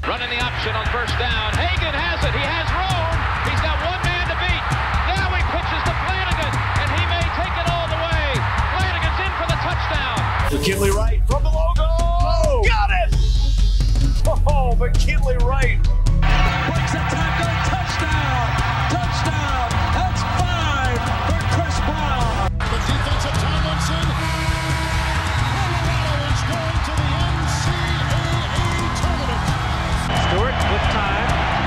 Running the option on first down. Hagan has it. He has room. He's got one man to beat. Now he pitches to Flanagan, and he may take it all the way. Flanagan's in for the touchdown. McKinley Wright from the logo. Oh, got it! Oh, McKinley Wright. Breaks a tackle. Touchdown. Touchdown. That's 5 for Chris Brown. The defensive Tomlinson. Colorado is going to the NCAA tournament. Stewart with time.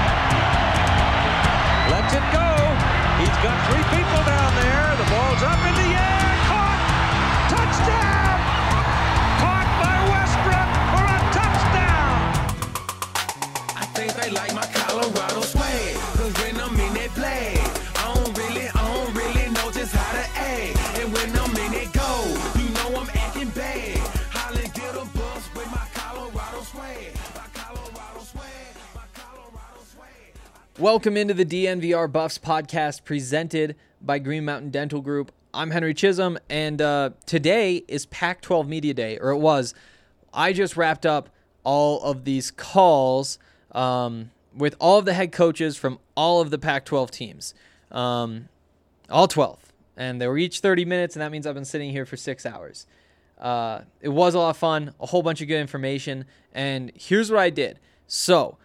Lets it go. He's got 3 people down there. The ball's up in the air. Caught. Touchdown. Caught by Westbrook for a touchdown. I think they like my Colorado swag. Cause when I'm in that play, I don't really know just how to act. And when I'm in it go, you know I'm acting bad. Holly get a bus with my Colorado swag. My Colorado swag. My Colorado swag. Welcome into the DNVR Buffs podcast presented by Green Mountain Dental Group. I'm Henry Chisholm, and today is Pac-12 Media Day, or it was. I just wrapped up all of these calls with all of the head coaches from all of the Pac-12 teams, all 12, and they were each 30 minutes, and that means I've been sitting here for 6 hours. It was a lot of fun, a whole bunch of good information, and here's what I did. So,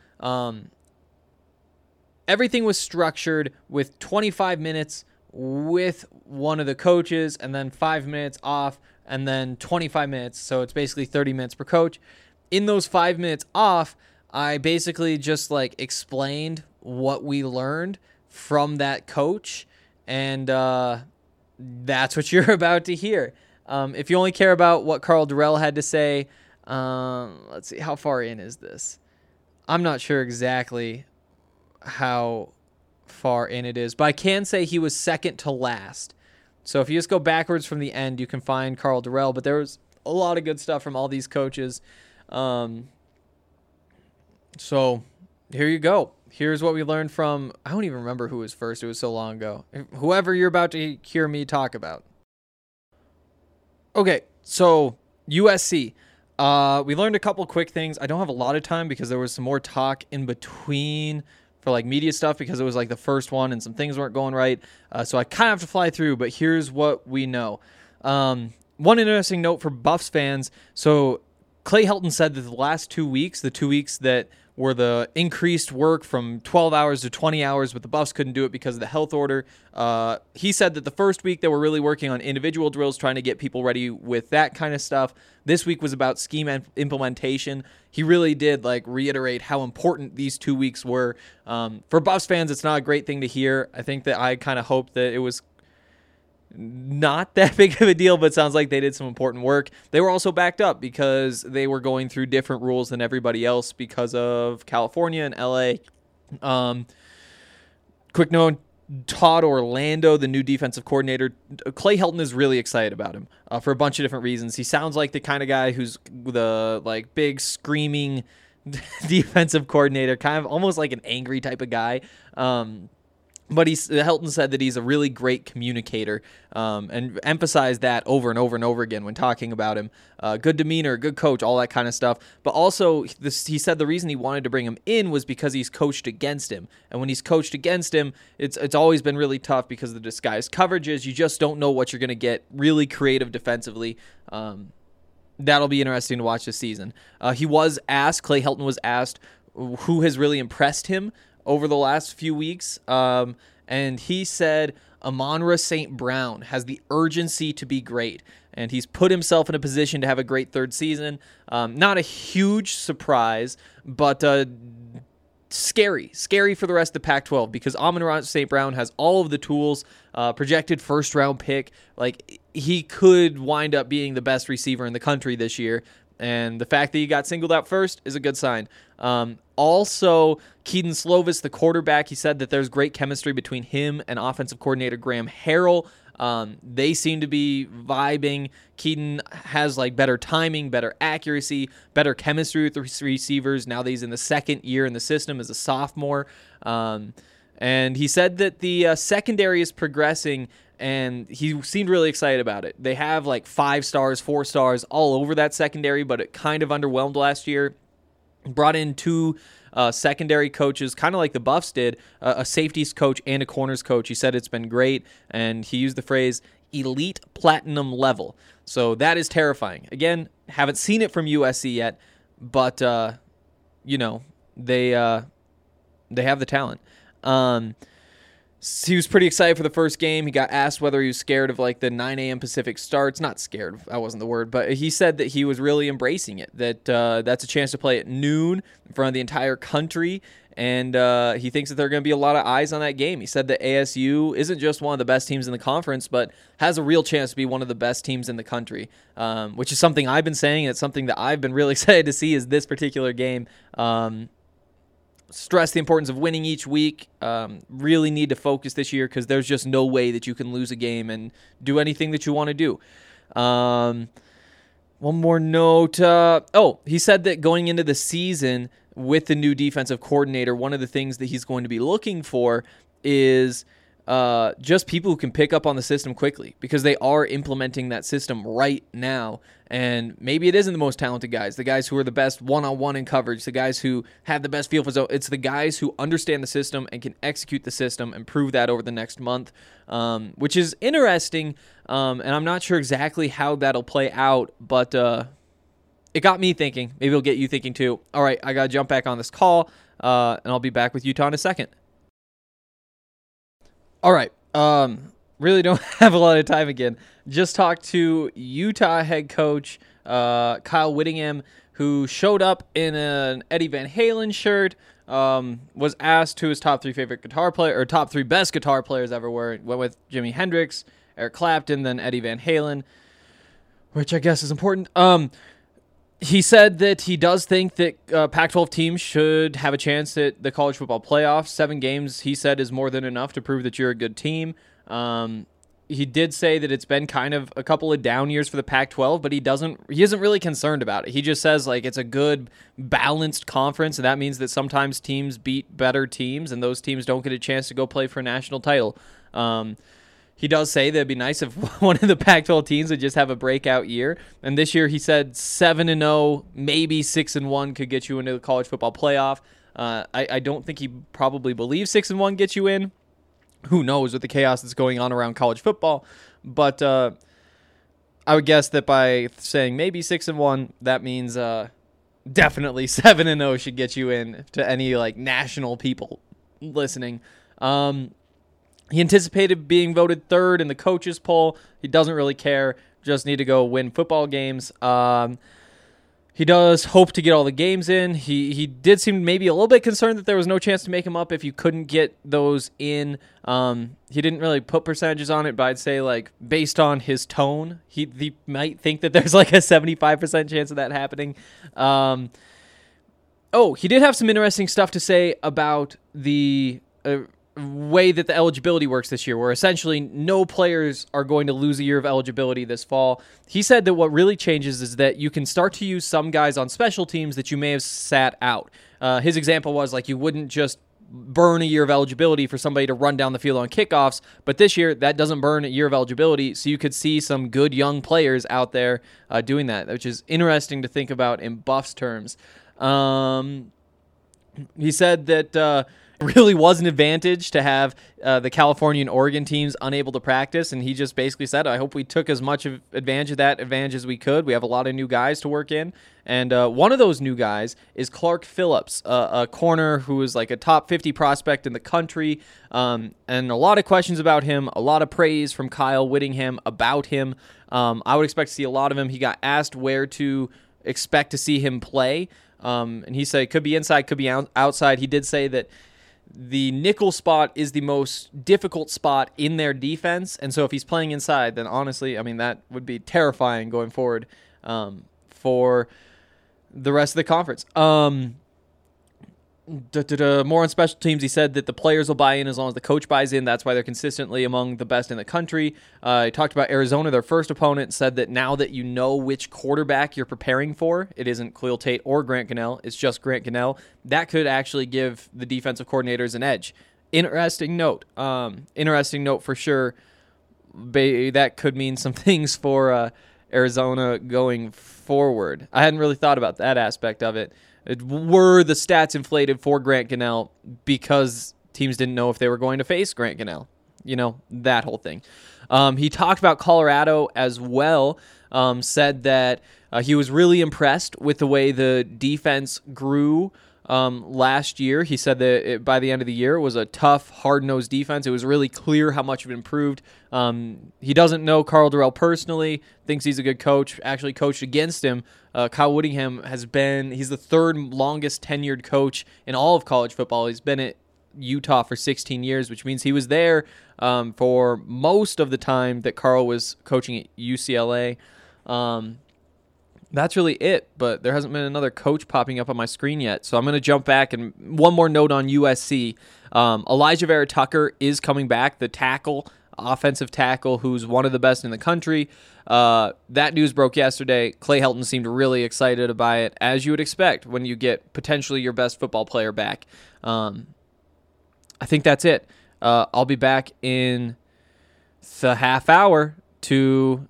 everything was structured with 25 minutes with one of the coaches and then 5 minutes off and then 25 minutes. So it's basically 30 minutes per coach. In those 5 minutes off, I basically just explained what we learned from that coach. And that's what you're about to hear. If you only care about what Karl Dorrell had to say, let's see, how far in is this? I'm not sure exactly how far in it is, but I can say he was second to last. So if you just go backwards from the end, you can find Karl Dorrell, but there was a lot of good stuff from all these coaches. So here you go. Here's what we learned from, I don't even remember who was first. It was so long ago. Whoever you're about to hear me talk about. Okay, so USC. We learned a couple quick things. I don't have a lot of time because there was some more talk in between for media stuff because it was the first one and some things weren't going right. So I kind of have to fly through, but here's what we know. One interesting note for Buffs fans. So Clay Helton said that the last 2 weeks, the 2 weeks that were the increased work from 12 hours to 20 hours, but the Buffs couldn't do it because of the health order. He said that the first week they were really working on individual drills, trying to get people ready with that kind of stuff. This week was about scheme implementation. He really did reiterate how important these 2 weeks were. For Buffs fans, it's not a great thing to hear. I think that I kind of hoped that it was not that big of a deal, but it sounds like they did some important work. They were also backed up because they were going through different rules than everybody else because of California and LA. Quick note, Todd Orlando, the new defensive coordinator, Clay Helton is really excited about him for a bunch of different reasons. He sounds like the kind of guy who's the big screaming defensive coordinator, kind of almost like an angry type of guy. But Helton said that he's a really great communicator and emphasized that over and over and over again when talking about him. Good demeanor, good coach, all that kind of stuff. But also, he said the reason he wanted to bring him in was because he's coached against him. And when he's coached against him, it's always been really tough because of the disguised coverages. You just don't know what you're going to get. Really creative defensively. That'll be interesting to watch this season. Clay Helton was asked who has really impressed him over the last few weeks, and he said Amon-Ra St. Brown has the urgency to be great, and he's put himself in a position to have a great third season. Not a huge surprise, but scary for the rest of the Pac-12 because Amon-Ra St. Brown has all of the tools, projected first-round pick. He could wind up being the best receiver in the country this year, and the fact that he got singled out first is a good sign. Also, Kedon Slovis, the quarterback, he said that there's great chemistry between him and offensive coordinator Graham Harrell. They seem to be vibing. Kedon has better timing, better accuracy, better chemistry with the receivers now that he's in the second year in the system as a sophomore. And he said that the secondary is progressing, and he seemed really excited about it. They have 5 stars, 4 stars all over that secondary, but it kind of underwhelmed last year. Brought in 2 secondary coaches, kind of like the Buffs did, a safeties coach and a corners coach. He said it's been great, and he used the phrase elite platinum level. So that is terrifying. Again, haven't seen it from USC yet, but they have the talent. He was pretty excited for the first game. He got asked whether he was scared of like the 9 a.m. Pacific starts. Not scared, that wasn't the word, but he said that he was really embracing it, that that's a chance to play at noon in front of the entire country, and he thinks that there are going to be a lot of eyes on that game. He said that ASU isn't just one of the best teams in the conference, but has a real chance to be one of the best teams in the country, which is something I've been saying, and it's something that I've been really excited to see is this particular game. Stress the importance of winning each week. Really need to focus this year because there's just no way that you can lose a game and do anything that you want to do. One more note. He said that going into the season with the new defensive coordinator, one of the things that he's going to be looking for is just people who can pick up on the system quickly, because they are implementing that system right now. And maybe it isn't the most talented guys, the guys who are the best one-on-one in coverage, the guys who have the best feel for zone. It's the guys who understand the system and can execute the system and prove that over the next month, which is interesting. And I'm not sure exactly how that'll play out, but it got me thinking. Maybe it'll get you thinking too. All right, I got to jump back on this call, and I'll be back with Utah in a second. All right. Really don't have a lot of time again. Just talked to Utah head coach Kyle Whittingham, who showed up in an Eddie Van Halen shirt, was asked who his top 3 favorite guitar player, or top 3 best guitar players ever were. Went with Jimi Hendrix, Eric Clapton, then Eddie Van Halen, which I guess is important. He said that he does think that Pac-12 teams should have a chance at the college football playoffs. 7 games, he said, is more than enough to prove that you're a good team. He did say that it's been kind of a couple of down years for the Pac-12, but he isn't really concerned about it. He just says like it's a good balanced conference, and that means that sometimes teams beat better teams, and those teams don't get a chance to go play for a national title. He does say that it'd be nice if one of the Pac-12 teams would just have a breakout year. And this year he said 7-0, maybe 6-1 could get you into the college football playoff. I don't think he probably believes 6-1 gets you in. Who knows with the chaos that's going on around college football. But I would guess that by saying maybe 6-1, that means definitely 7-0 should get you in to any like national people listening. He anticipated being voted 3rd in the coaches poll. He doesn't really care. Just need to go win football games. He does hope to get all the games in. He did seem maybe a little bit concerned that there was no chance to make him up if you couldn't get those in. He didn't really put percentages on it, but I'd say like based on his tone, he might think that there's like a 75% chance of that happening. He did have some interesting stuff to say about the way that the eligibility works this year, where essentially no players are going to lose a year of eligibility this fall. He said that what really changes is that you can start to use some guys on special teams that you may have sat out. His example was like you wouldn't just burn a year of eligibility for somebody to run down the field on kickoffs, but this year that doesn't burn a year of eligibility, so you could see some good young players out there doing that, which is interesting to think about in Buffs terms. He said that really was an advantage to have the California and Oregon teams unable to practice, and he just basically said, I hope we took as much advantage of that advantage as we could. We have a lot of new guys to work in, and one of those new guys is Clark Phillips, a corner who is like a top 50 prospect in the country, and a lot of questions about him, a lot of praise from Kyle Whittingham about him. I would expect to see a lot of him. He got asked where to expect to see him play, and he said it could be inside, could be outside. He did say that the nickel spot is the most difficult spot in their defense, and so if he's playing inside, then honestly, I mean, that would be terrifying going forward for the rest of the conference. More on special teams, he said that the players will buy in as long as the coach buys in. That's why they're consistently among the best in the country. He talked about Arizona, their first opponent, said that now that you know which quarterback you're preparing for, it isn't Khalil Tate or Grant Gunnell, it's just Grant Gunnell. That could actually give the defensive coordinators an edge. Interesting note for sure. That could mean some things for Arizona going forward. I hadn't really thought about that aspect of it. were the stats inflated for Grant Gunnell because teams didn't know if they were going to face Grant Gunnell? That whole thing. He talked about Colorado as well, said that he was really impressed with the way the defense grew last year. He said that by the end of the year, it was a tough, hard-nosed defense. It was really clear how much it improved. He doesn't know Karl Dorrell personally, thinks he's a good coach, actually coached against him. Kyle Whittingham he's the third longest tenured coach in all of college football. He's been at Utah for 16 years, which means he was there for most of the time that Karl was coaching at UCLA. That's really it, but there hasn't been another coach popping up on my screen yet, so I'm going to jump back. And one more note on USC. Elijah Vera Tucker is coming back, the offensive tackle, who's one of the best in the country. That news broke yesterday. Clay Helton seemed really excited by it, as you would expect when you get potentially your best football player back. I think that's it. I'll be back in the half hour to,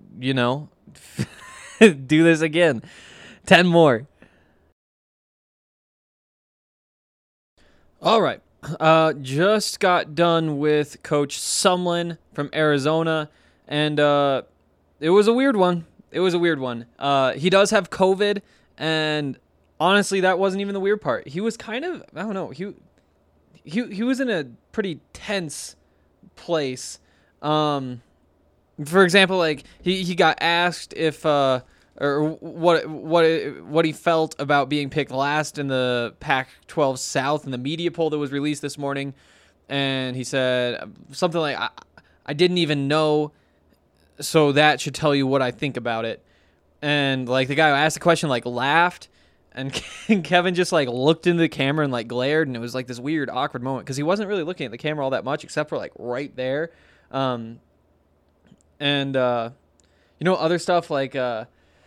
do this again. 10 more. All right. Just got done with Coach Sumlin from Arizona, and it was a weird one. He does have COVID, and honestly, that wasn't even the weird part. He was kind of, I don't know, he was in a pretty tense place. For example, like he got asked if or what he felt about being picked last in the Pac-12 South in the media poll that was released this morning, and he said something like, "I didn't even know, so that should tell you what I think about it." And like the guy who asked the question like laughed, and Kevin just like looked into the camera and like glared, and it was like this weird awkward moment because he wasn't really looking at the camera all that much except for like right there. Other stuff like the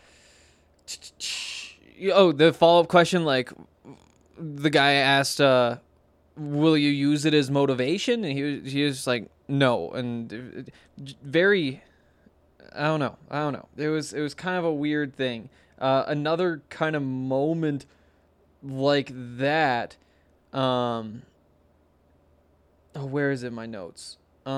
follow-up question, like the guy asked, will you use it as motivation? And he was like, no. And very, I don't know. It was kind of a weird thing. Another kind of moment like that. Where is it in my notes?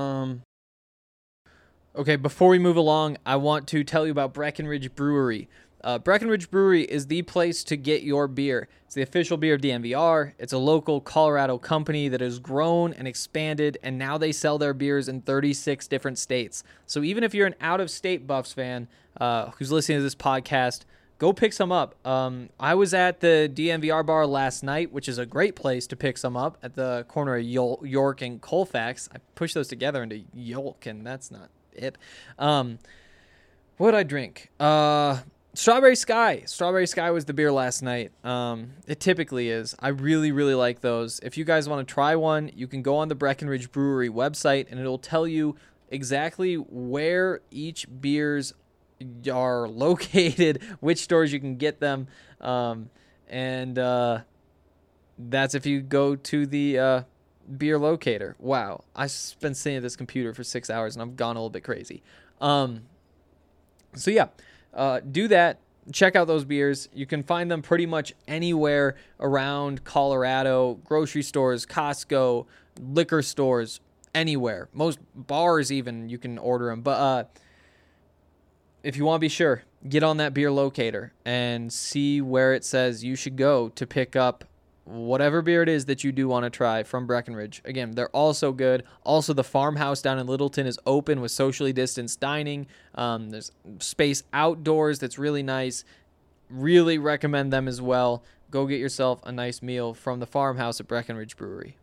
Okay, before we move along, I want to tell you about Breckenridge Brewery. Breckenridge Brewery is the place to get your beer. It's the official beer of DNVR. It's a local Colorado company that has grown and expanded, and now they sell their beers in 36 different states. So even if you're an out-of-state Buffs fan who's listening to this podcast, go pick some up. I was at the DNVR bar last night, which is a great place to pick some up at the corner of York and Colfax. I pushed those together into Yolk, and that's not it. What did I drink? Strawberry Sky. Strawberry Sky was the beer last night. It typically is. I really, really like those. If you guys want to try one, you can go on the Breckenridge Brewery website, and it'll tell you exactly where each beers are located, which stores you can get them, and that's if you go to the beer locator. Wow, I've been sitting at this computer for 6 hours and I've gone a little bit crazy. Do that. Check out those beers. You can find them pretty much anywhere around Colorado, grocery stores, Costco, liquor stores, anywhere. Most bars even, you can order them. But if you want to be sure, get on that beer locator and see where it says you should go to pick up whatever beer it is that you do want to try from Breckenridge. Again, they're all so good. Also, the farmhouse down in Littleton is open with socially distanced dining. There's space outdoors that's really nice. Really recommend them as well. Go get yourself a nice meal from the farmhouse at Breckenridge Brewery.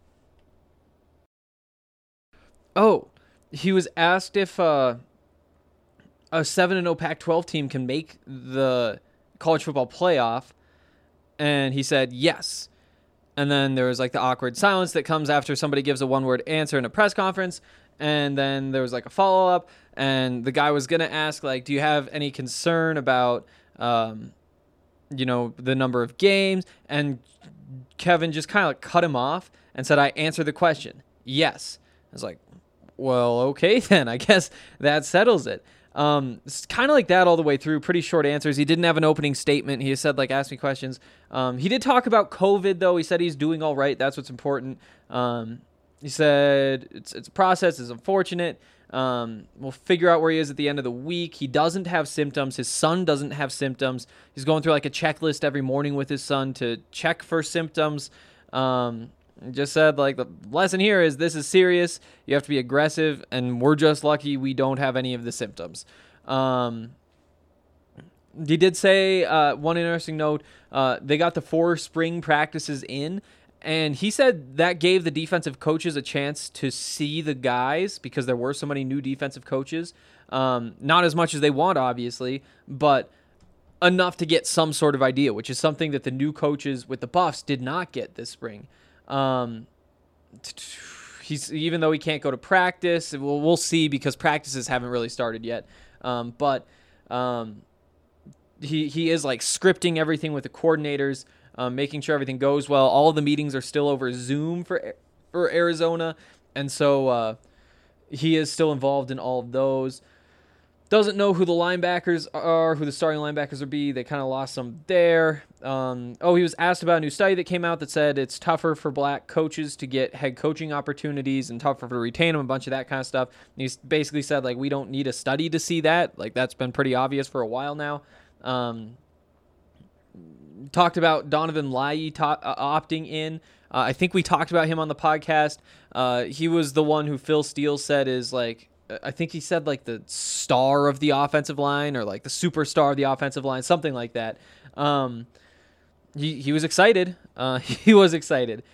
Oh, he was asked if a 7-0 Pac-12 team can make the college football playoff, and he said yes. And then there was like the awkward silence that comes after somebody gives a one-word answer in a press conference, and then there was like a follow-up, and the guy was going to ask, like, do you have any concern about, the number of games? And Kevin just kind of like cut him off and said, I answered the question. Yes. I was like, well, okay then. I guess that settles it. It's kind of like that all the way through. Pretty short answers. He didn't have an opening statement. He just said, like, ask me questions. He did talk about COVID, though. He said he's doing all right. That's what's important. He said it's a process. It's unfortunate. We'll figure out where he is at the end of the week. He doesn't have symptoms. His son doesn't have symptoms. He's going through like a checklist every morning with his son to check for symptoms. Just said, like, the lesson here is this is serious. You have to be aggressive, and we're just lucky we don't have any of the symptoms. He did say one interesting note, they got the 4 spring practices in, and he said that gave the defensive coaches a chance to see the guys because there were so many new defensive coaches. Not as much as they want, obviously, but enough to get some sort of idea, which is something that the new coaches with the Buffs did not get this spring. He's even though he can't go to practice, we'll see because practices haven't really started yet. But he is like scripting everything with the coordinators, making sure everything goes well. All of the meetings are still over Zoom for Arizona, and so he is still involved in all of those. Doesn't know who the linebackers are, who the starting linebackers will be. They kind of lost some there. He was asked about a new study that came out that said it's tougher for black coaches to get head coaching opportunities and tougher to retain them, a bunch of that kind of stuff. And he basically said, like, we don't need a study to see that. Like, that's been pretty obvious for a while now. Talked about Donovan Lai opting in. I think we talked about him on the podcast. He was the one who Phil Steele said is, like, I think he said like the star of the offensive line or like the superstar of the offensive line, something like that. He was excited. He was excited.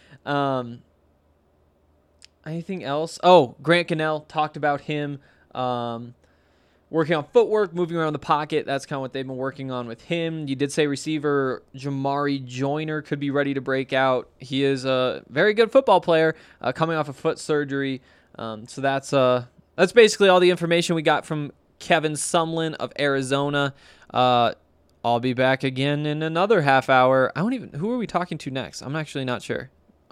Anything else? Oh, Grant Gunnell talked about him working on footwork, moving around the pocket. That's kind of what they've been working on with him. You did say receiver Jamari Joyner could be ready to break out. He is a very good football player coming off of foot surgery. So that's basically all the information we got from Kevin Sumlin of Arizona. I'll be back again in another half hour. Who are we talking to next? I'm actually not sure.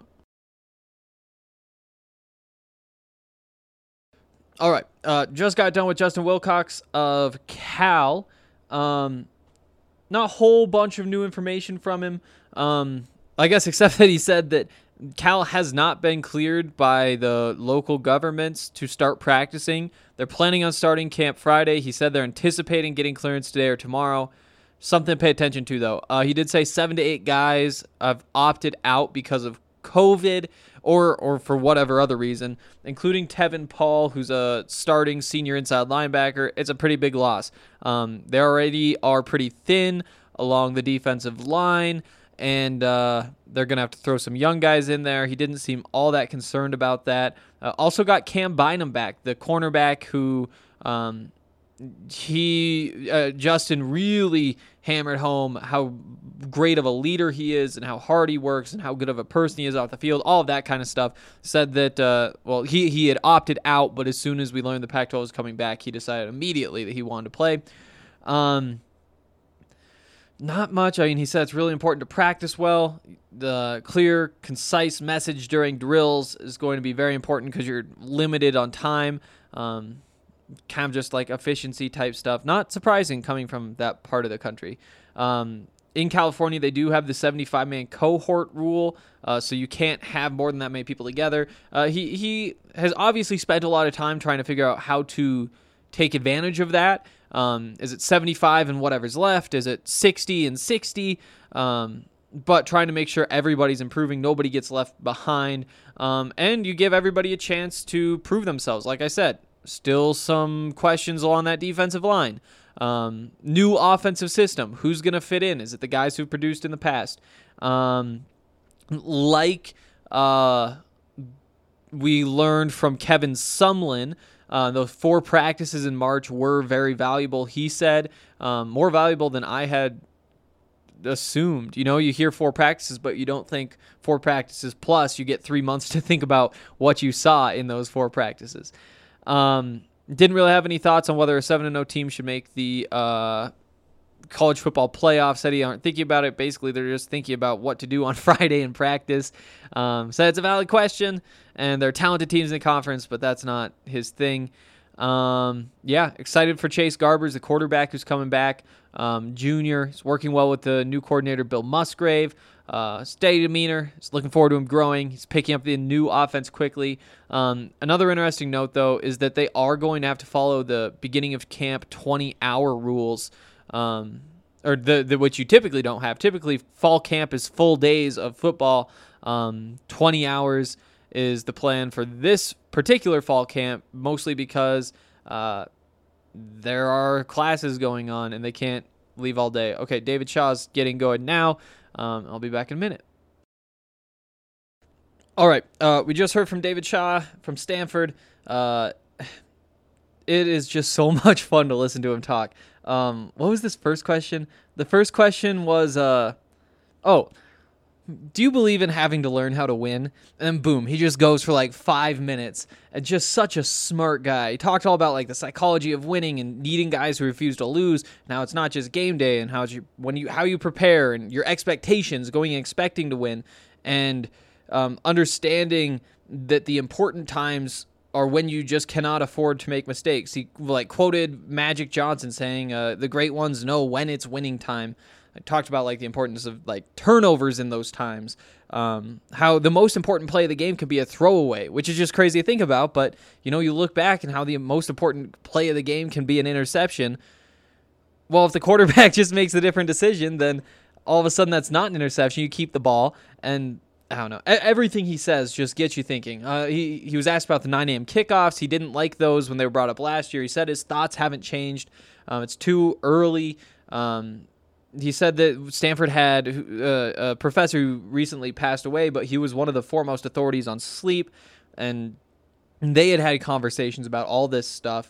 All right. Just got done with Justin Wilcox of Cal. Not a whole bunch of new information from him. I guess except that he said that Cal has not been cleared by the local governments to start practicing. They're planning on starting camp Friday. He said they're anticipating getting clearance today or tomorrow. Something to pay attention to, though. He did say 7 to 8 guys have opted out because of COVID or for whatever other reason, including Tevin Paul, who's a starting senior inside linebacker. It's a pretty big loss. They already are pretty thin along the defensive line, and they're going to have to throw some young guys in there. He didn't seem all that concerned about that. Also got Cam Bynum back, the cornerback who Justin really hammered home how great of a leader he is and how hard he works and how good of a person he is off the field, all of that kind of stuff. Said that, he had opted out, but as soon as we learned the Pac-12 was coming back, he decided immediately that he wanted to play. Not much. I mean, he said it's really important to practice well. The clear, concise message during drills is going to be very important because you're limited on time. Kind of just like efficiency type stuff. Not surprising coming from that part of the country. In California, they do have the 75-man cohort rule, so you can't have more than that many people together. He has obviously spent a lot of time trying to figure out how to take advantage of that. Is it 75 and whatever's left? Is it 60 and 60? But trying to make sure everybody's improving, nobody gets left behind, and you give everybody a chance to prove themselves. Like I said, still some questions along that defensive line. New offensive system. Who's going to fit in? Is it the guys who've produced in the past? We learned from Kevin Sumlin, those 4 practices in March were very valuable. He said more valuable than I had assumed. You know, you hear 4 practices, but you don't think 4 practices plus you get 3 months to think about what you saw in those 4 practices. Didn't really have any thoughts on whether a 7-0 team should make the college football playoff. Said he aren't thinking about it. Basically, they're just thinking about what to do on Friday in practice. So it's a valid question, and they're talented teams in the conference, but that's not his thing. Yeah, excited for Chase Garbers, the quarterback who's coming back. Junior. He's working well with the new coordinator, Bill Musgrave. Steady demeanor. He's looking forward to him growing. He's picking up the new offense quickly. Another interesting note, though, is that they are going to have to follow the beginning of camp 20-hour rules, or which you typically don't have. Typically, fall camp is full days of football. 20 hours is the plan for this particular fall camp, mostly because there are classes going on and they can't leave all day. Okay, David Shaw's getting going now. I'll be back in a minute. All right, we just heard from David Shaw from Stanford. It is just so much fun to listen to him talk. What was this first question? The first question was, do you believe in having to learn how to win? And then boom, he just goes for like 5 minutes. And just such a smart guy. He talked all about like the psychology of winning and needing guys who refuse to lose. Now it's not just game day and how you prepare and your expectations, going and expecting to win, and understanding that the important times are when you just cannot afford to make mistakes. He like quoted Magic Johnson saying, "The great ones know when it's winning time." I talked about like the importance of like turnovers in those times. How the most important play of the game could be a throwaway, which is just crazy to think about. But you look back and how the most important play of the game can be an interception. Well, if the quarterback just makes a different decision, then all of a sudden that's not an interception. You keep the ball, and I don't know. Everything he says just gets you thinking. He was asked about the 9 a.m. kickoffs. He didn't like those when they were brought up last year. He said his thoughts haven't changed. It's too early. He said that Stanford had a professor who recently passed away, but he was one of the foremost authorities on sleep, and they had conversations about all this stuff.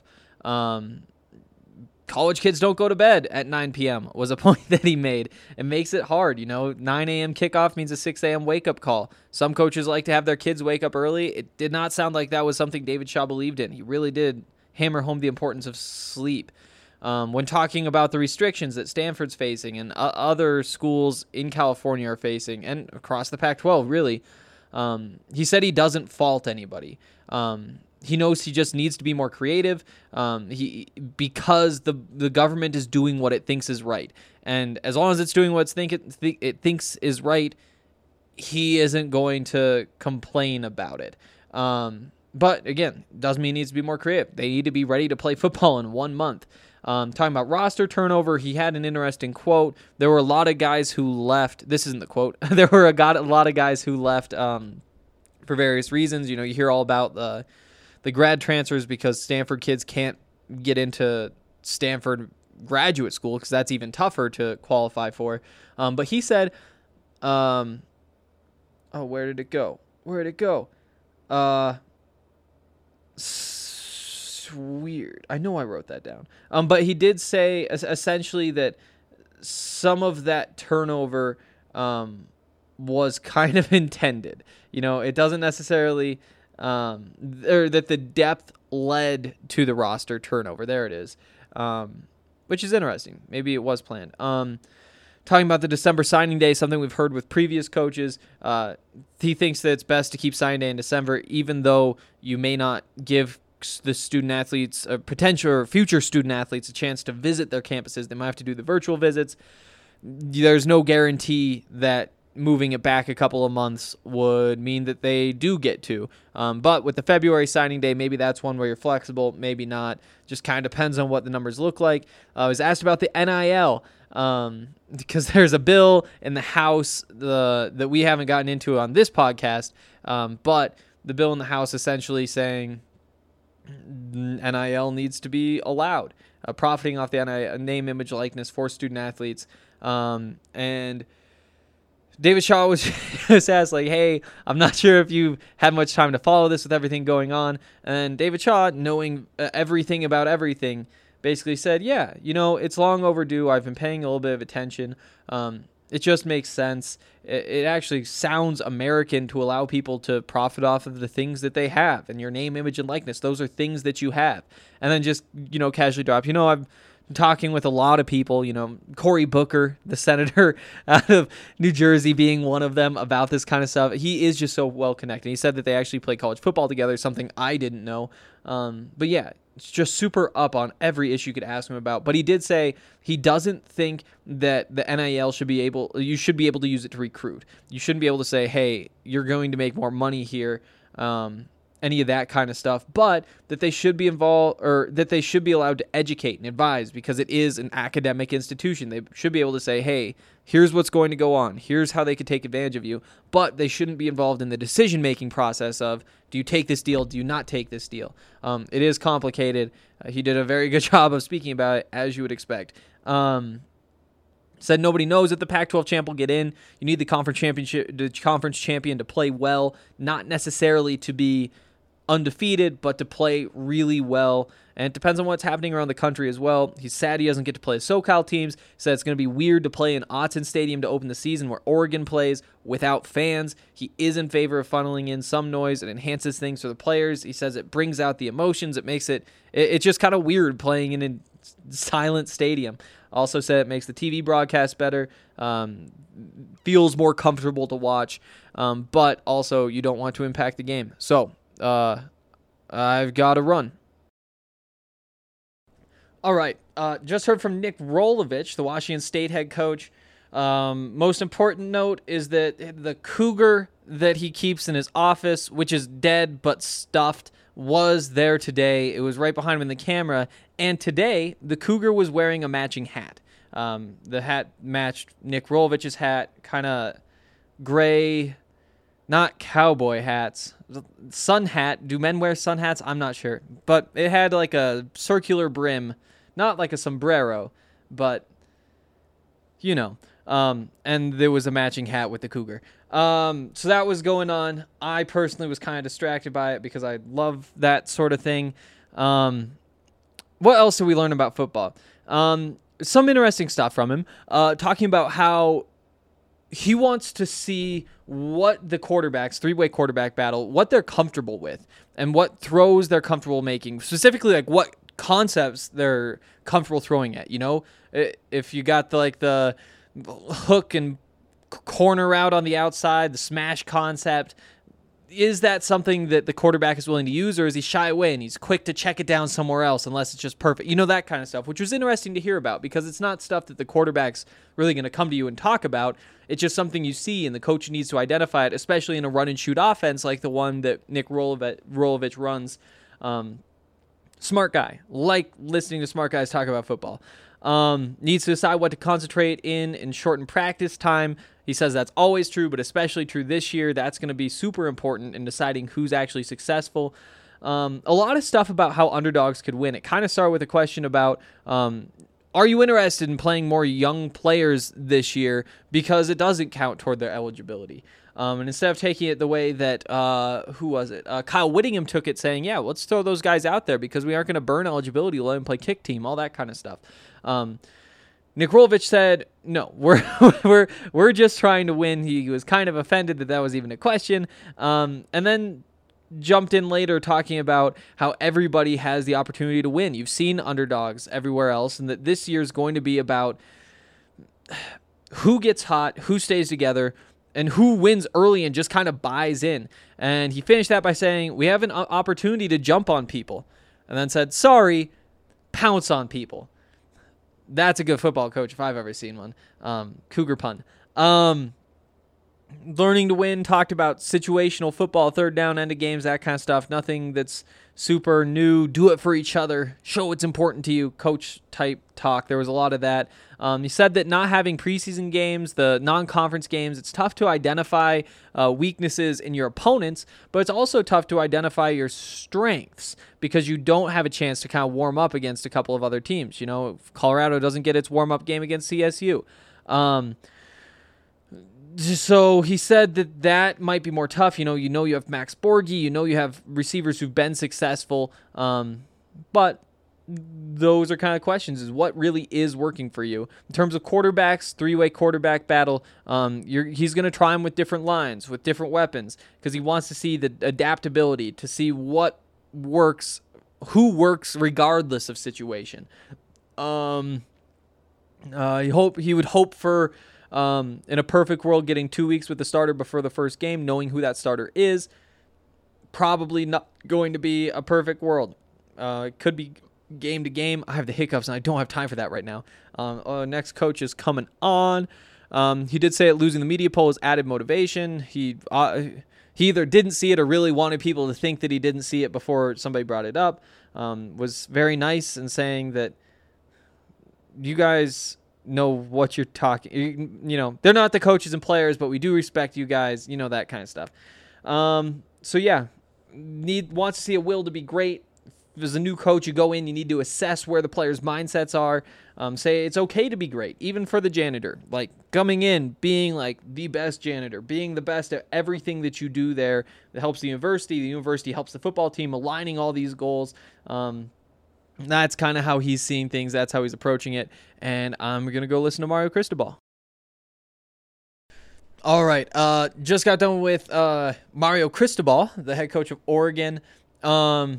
College kids don't go to bed at 9 p.m. was a point that he made. It makes it hard. 9 a.m. kickoff means a 6 a.m. wake-up call. Some coaches like to have their kids wake up early. It did not sound like that was something David Shaw believed in. He really did hammer home the importance of sleep. When talking about the restrictions that Stanford's facing and other schools in California are facing, and across the Pac-12, really, he said he doesn't fault anybody. He knows he just needs to be more creative because the government is doing what it thinks is right. And as long as it's doing what it thinks is right, he isn't going to complain about it. But again, doesn't mean he needs to be more creative. They need to be ready to play football in 1 month. Talking about roster turnover, he had an interesting quote. There were a lot of guys who left. This isn't the quote. There were a lot of guys who left for various reasons. You hear all about the grad transfers because Stanford kids can't get into Stanford graduate school because that's even tougher to qualify for. But he said, where did it go? Weird. I know I wrote that down. But he did say essentially that some of that turnover was kind of intended. It doesn't necessarily, or that the depth led to the roster turnover. There it is, which is interesting. Maybe it was planned. Talking about the December signing day, something we've heard with previous coaches. He thinks that it's best to keep signing day in December, even though you may not give the student athletes, potential or future student athletes, a chance to visit their campuses. They might have to do the virtual visits. There's no guarantee that moving it back a couple of months would mean that they do get to. But with the February signing day, maybe that's one where you're flexible, maybe not. Just kind of depends on what the numbers look like. I was asked about the NIL because there's a bill in the House that we haven't gotten into on this podcast, but the bill in the House essentially saying NIL needs to be allowed, profiting off the NIL, name, image, likeness for student athletes. And David Shaw was asked, like, hey, I'm not sure if you've had much time to follow this with everything going on. And David Shaw, knowing everything about everything, basically said, yeah, it's long overdue. I've been paying a little bit of attention. It just makes sense. It actually sounds American to allow people to profit off of the things that they have, and your name, image, and likeness. Those are things that you have. And then just, casually drop, I'm talking with a lot of people, Cory Booker, the senator out of New Jersey being one of them, about this kind of stuff. He is just so well connected. He said that they actually play college football together, something I didn't know. But yeah, just super up on every issue you could ask him about. But he did say he doesn't think that the NIL you should be able to use it to recruit. You shouldn't be able to say, hey, you're going to make more money here, any of that kind of stuff, but that they should be involved, or that they should be allowed to educate and advise, because it is an academic institution. They should be able to say, hey, here's what's going to go on. Here's how they could take advantage of you. But they shouldn't be involved in the decision-making process of, do you take this deal? Do you not take this deal? It is complicated. He did a very good job of speaking about it, as you would expect. Said nobody knows if the Pac-12 champ will get in. You need the conference champion to play well, not necessarily to be undefeated, but to play really well. And it depends on what's happening around the country as well. He's sad he doesn't get to play SoCal teams. He said it's going to be weird to play in Autzen Stadium to open the season where Oregon plays without fans. He is in favor of funneling in some noise. It enhances things for the players. He says it brings out the emotions. It makes it's just kind of weird playing in a silent stadium. Also said it makes the TV broadcast better, feels more comfortable to watch, but also you don't want to impact the game. So I've got to run. All right, just heard from Nick Rolovich, the Washington State head coach. Most important note is that the cougar that he keeps in his office, which is dead but stuffed, was there today. It was right behind him in the camera, and today the cougar was wearing a matching hat. The hat matched Nick Rolovich's hat, kind of gray, not cowboy hats. Sun hat. Do men wear sun hats? I'm not sure. But it had like a circular brim, not like a sombrero, but you know. And there was a matching hat with the cougar. So that was going on. I personally was kind of distracted by it because I love that sort of thing. What else did we learn about football? Some interesting stuff from him, talking about how he wants to see what the quarterbacks, three-way quarterback battle, what they're comfortable with and what throws they're comfortable making, specifically like what concepts they're comfortable throwing at. You know, if you got the hook and corner route on the outside, the smash concept, is that something that the quarterback is willing to use, or is he shy away and he's quick to check it down somewhere else unless it's just perfect? You know, that kind of stuff, which was interesting to hear about because it's not stuff that the quarterback's really going to come to you and talk about. It's just something you see, and the coach needs to identify it, especially in a run-and-shoot offense like the one that Nick Rolovich runs. Smart guy. Like listening to smart guys talk about football. Needs to decide what to concentrate in shorten practice time. He says that's always true, but especially true this year. That's going to be super important in deciding who's actually successful. A lot of stuff about how underdogs could win. It kind of started with a question about, are you interested in playing more young players this year because it doesn't count toward their eligibility? And instead of taking it the way that, who was it? Kyle Whittingham took it, saying, yeah, let's throw those guys out there because we aren't going to burn eligibility, let them play kick team, all that kind of stuff. Nick Rolovich said, no, we're just trying to win. He was kind of offended that was even a question. And then jumped in later talking about how everybody has the opportunity to win. You've seen underdogs everywhere else, and that this year is going to be about who gets hot, who stays together, and who wins early and just kind of buys in. And he finished that by saying, we have an opportunity to jump on people. And then said, sorry, pounce on people. That's a good football coach if I've ever seen one. Cougar pun. Learning to win, talked about situational football, third down, end of games, that kind of stuff. Nothing that's super new. Do it for each other. Show what's important to you. Coach type talk. There was a lot of that. He said that not having preseason games, the non-conference games, it's tough to identify weaknesses in your opponents, but it's also tough to identify your strengths because you don't have a chance to kind of warm up against a couple of other teams. You know, Colorado doesn't get its warm-up game against CSU. So he said that might be more tough. You know you have Max Borghi, you have receivers who've been successful, but those are kind of questions, is what really is working for you. In terms of quarterbacks, three-way quarterback battle, he's going to try them with different lines, with different weapons, because he wants to see the adaptability, to see what works, who works regardless of situation. He would hope for, in a perfect world, getting 2 weeks with the starter before the first game, knowing who that starter is. Probably not going to be a perfect world. It could be game to game. I have the hiccups, and I don't have time for that right now. Next coach is coming on. He did say that losing the media poll has added motivation. He either didn't see it or really wanted people to think that he didn't see it before somebody brought it up. Was very nice in saying that you guys know what you're talking. You know, they're not the coaches and players, but we do respect you guys. You know, that kind of stuff. So yeah, wants to see a will to be great. If there's a new coach, you go in, you need to assess where the players' mindsets are. Say it's okay to be great, even for the janitor. Like coming in, being like the best janitor, being the best at everything that you do there that helps the university helps the football team, aligning all these goals. That's kind of how he's seeing things. That's how he's approaching it. And I'm going to go listen to Mario Cristobal. All right. Just got done with Mario Cristobal, the head coach of Oregon. I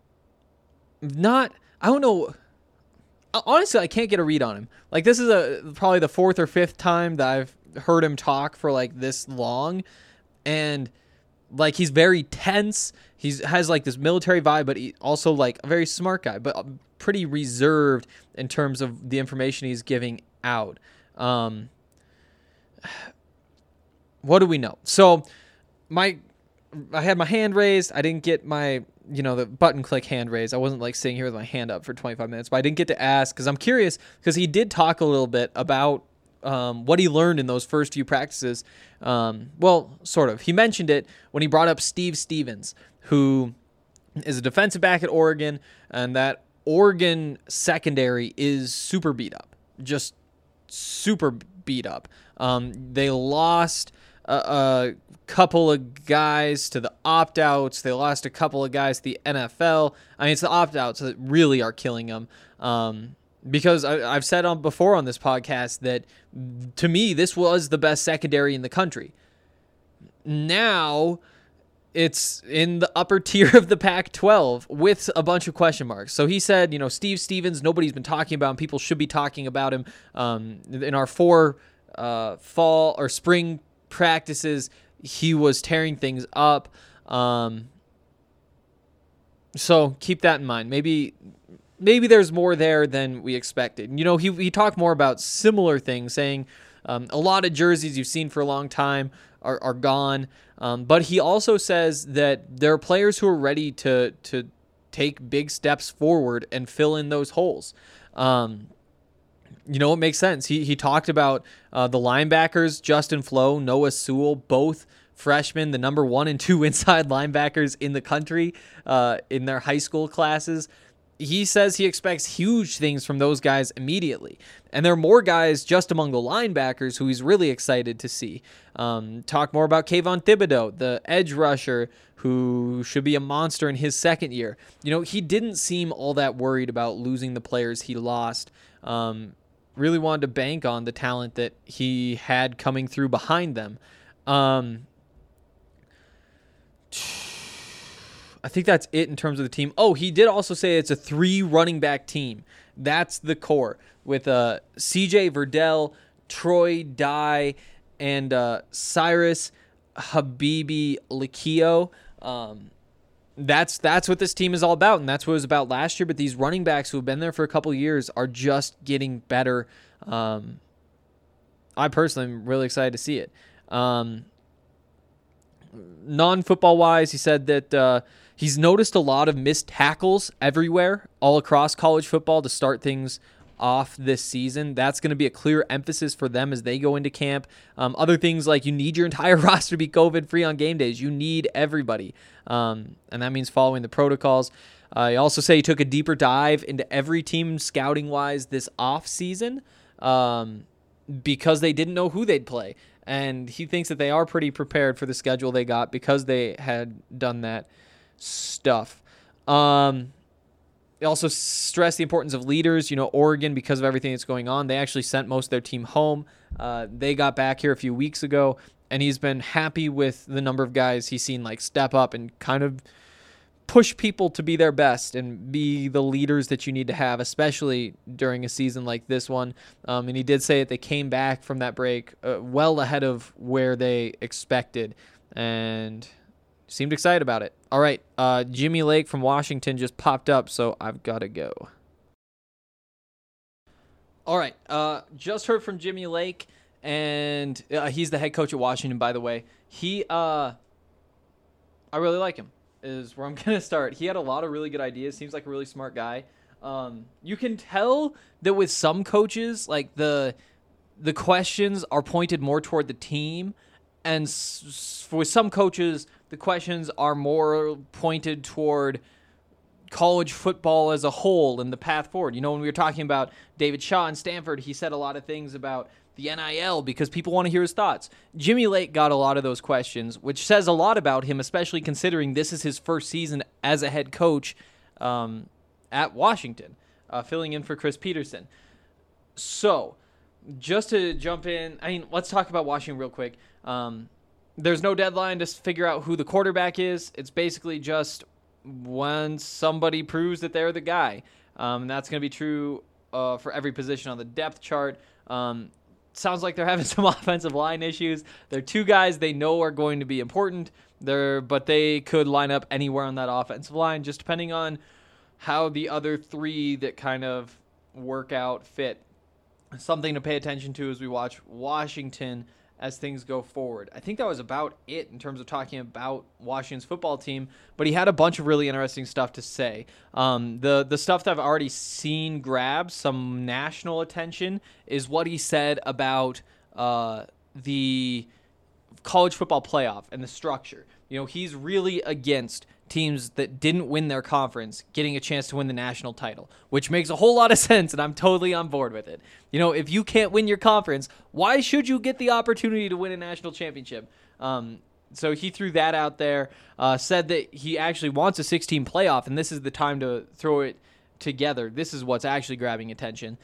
don't know. Honestly, I can't get a read on him. Like, this is probably the fourth or fifth time that I've heard him talk for like this long. And like, he's very tense. He has like this military vibe, but he also like a very smart guy, but pretty reserved in terms of the information he's giving out. What do we know? So I had my hand raised. I didn't get my, the button click hand raised. I wasn't like sitting here with my hand up for 25 minutes, but I didn't get to ask because I'm curious because he did talk a little bit about what he learned in those first few practices. Well, sort of. He mentioned it when he brought up Steve Stevens, who is a defensive back at Oregon, and that Oregon secondary is super beat up. Just super beat up. They lost a couple of guys to the opt-outs. They lost a couple of guys to the NFL. I mean, it's the opt-outs that really are killing them. Because I've said before on this podcast that, to me, this was the best secondary in the country. Now, it's in the upper tier of the Pac-12 with a bunch of question marks. So he said, Steve Stevens, nobody's been talking about him. People should be talking about him. In our 4 fall or spring practices, he was tearing things up. So keep that in mind. Maybe there's more there than we expected. He talked more about similar things, saying a lot of jerseys you've seen for a long time are gone. But he also says that there are players who are ready to take big steps forward and fill in those holes. It makes sense. He talked about the linebackers, Justin Flo, Noah Sewell, both freshmen, the number 1 and 2 inside linebackers in the country in their high school classes. He says he expects huge things from those guys immediately. And there are more guys just among the linebackers who he's really excited to see. Talk more about Kayvon Thibodeau, the edge rusher who should be a monster in his second year. He didn't seem all that worried about losing the players he lost. Really wanted to bank on the talent that he had coming through behind them. I think that's it in terms of the team. Oh, he did also say it's a 3 running back team. That's the core with CJ Verdell, Troy Dye, and Cyrus Habibi Lakio. That's what this team is all about, and that's what it was about last year. But these running backs who have been there for a couple of years are just getting better. I personally am really excited to see it. Non-football wise, he said that he's noticed a lot of missed tackles everywhere, all across college football to start things off this season. That's going to be a clear emphasis for them as they go into camp. Other things like you need your entire roster to be COVID-free on game days. You need everybody, and that means following the protocols. He also say he took a deeper dive into every team scouting-wise this off-season because they didn't know who they'd play. And he thinks that they are pretty prepared for the schedule they got because they had done that stuff. They also stress the importance of leaders. Oregon, because of everything that's going on, they actually sent most of their team home. They got back here a few weeks ago, and he's been happy with the number of guys he's seen step up and kind of push people to be their best and be the leaders that you need to have, especially during a season like this one. And he did say that they came back from that break well ahead of where they expected. And Seemed excited about it. All right, Jimmy Lake from Washington just popped up, so I've got to go. All right, just heard from Jimmy Lake, and he's the head coach at Washington, by the way. I really like him, is where I'm going to start. He had a lot of really good ideas. Seems like a really smart guy. You can tell that with some coaches, like the questions are pointed more toward the team, and with some coaches, the questions are more pointed toward college football as a whole and the path forward. You know, when we were talking about David Shaw in Stanford, he said a lot of things about the NIL because people want to hear his thoughts. Jimmy Lake got a lot of those questions, which says a lot about him, especially considering this is his first season as a head coach at Washington, filling in for Chris Peterson. So, just to jump in, let's talk about Washington real quick. There's no deadline to figure out who the quarterback is. It's basically just when somebody proves that they're the guy. And that's going to be true for every position on the depth chart. Sounds like they're having some offensive line issues. They're two guys they know are going to be important, but they could line up anywhere on that offensive line, just depending on how the other three that kind of work out fit. Something to pay attention to as we watch Washington as things go forward. I think that was about it in terms of talking about Washington's football team, but he had a bunch of really interesting stuff to say. The stuff that I've already seen grab some national attention is what he said about the college football playoff and the structure. You know, he's really against teams that didn't win their conference getting a chance to win the national title, which makes a whole lot of sense, and I'm totally on board with it. You know, if you can't win your conference, why should you get the opportunity to win a national championship? So he threw that out there, said that he actually wants a 16 playoff, and this is the time to throw it together. This is what's actually grabbing attention.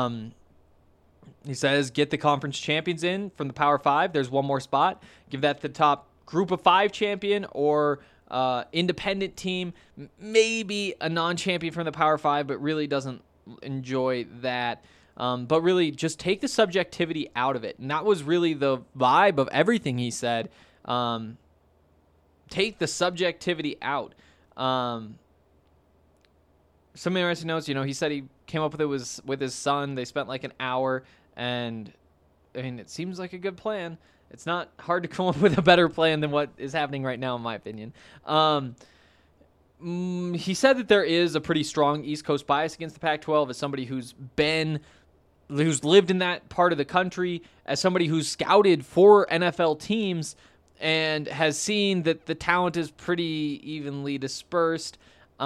He says, get the conference champions in from the Power 5. There's one more spot. Give that the top group of 5 champion or independent team, maybe a non-champion from the Power 5, but really doesn't enjoy that. But really just take the subjectivity out of it. And that was really the vibe of everything he said. Take the subjectivity out. Some interesting notes, you know, he said he came up with it with his son. They spent like an hour, and I mean, it seems like a good plan. It's not hard to come up with a better plan than what is happening right now, in my opinion. He said that there is a pretty strong East Coast bias against the Pac-12 as somebody who's lived in that part of the country, as somebody who's scouted for NFL teams and has seen that the talent is pretty evenly dispersed.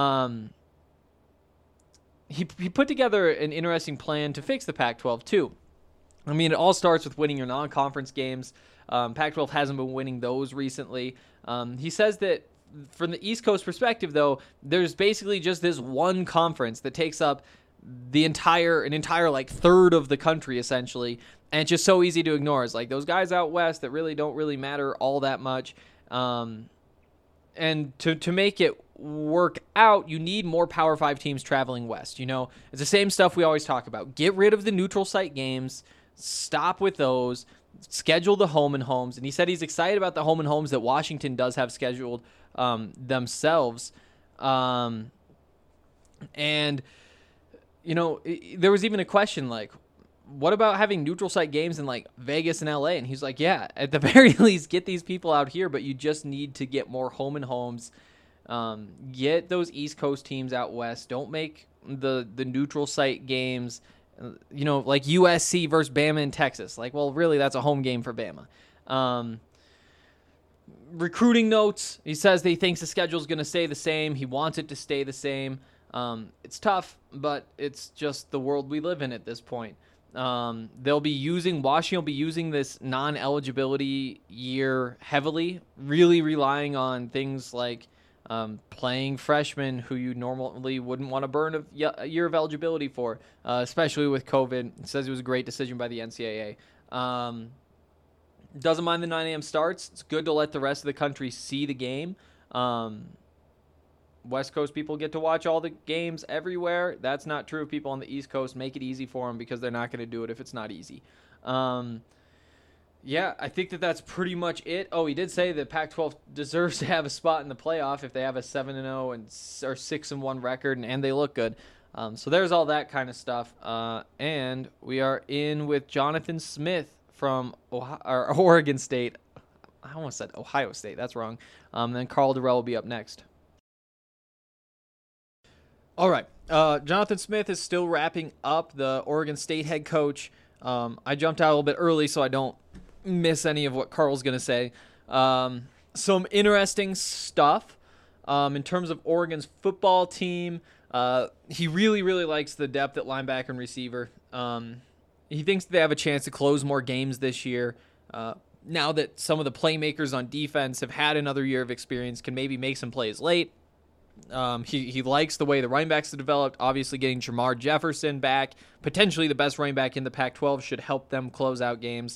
He put together an interesting plan to fix the Pac-12 too. I mean, it all starts with winning your non-conference games. Pac-12 hasn't been winning those recently. He says that from the East Coast perspective, though, there's basically just this one conference that takes up an entire like third of the country, essentially, and it's just so easy to ignore. It's like those guys out west that really don't really matter all that much. And to make it work out, you need more Power 5 teams traveling west. You know, it's the same stuff we always talk about. Get rid of the neutral site games. Stop with those. Schedule the home and homes. And he said he's excited about the home and homes that Washington does have scheduled themselves. And, you know, there was even a question like, what about having neutral site games in like Vegas and LA? And he's like, yeah, at the very least, get these people out here, but you just need to get more home and homes. Get those East Coast teams out west. Don't make the neutral site games, you know, like USC versus Bama in Texas. Like, well, really, that's a home game for Bama. Recruiting notes. He says that he thinks the schedule is going to stay the same. He wants it to stay the same. It's tough, but it's just the world we live in at this point. Washington will be using this non-eligibility year heavily, really relying on things like playing freshmen who you normally wouldn't want to burn a year of eligibility for, especially with COVID. It says it was a great decision by the NCAA. Doesn't mind the 9 a.m. starts. It's good to let the rest of the country see the game. West Coast people get to watch all the games everywhere. That's not true of people on the East Coast. Make it easy for them because they're not going to do it if it's not easy. Yeah, I think that that's pretty much it. Oh, he did say that Pac-12 deserves to have a spot in the playoff if they have a 7-0 or 6-1 record and they look good. So there's all that kind of stuff. And we are in with Jonathan Smith from Oregon State. I almost said Ohio State. That's wrong. Then Carl Durrell will be up next. All right. Jonathan Smith is still wrapping up, the Oregon State head coach. I jumped out a little bit early so I don't miss any of what Carl's going to say. Some interesting stuff in terms of Oregon's football team. He really, really likes the depth at linebacker and receiver. He thinks they have a chance to close more games this year. Now that some of the playmakers on defense have had another year of experience, can maybe make some plays late. He likes the way the running backs have developed. Obviously, getting Jamar Jefferson back, potentially the best running back in the Pac-12, should help them close out games.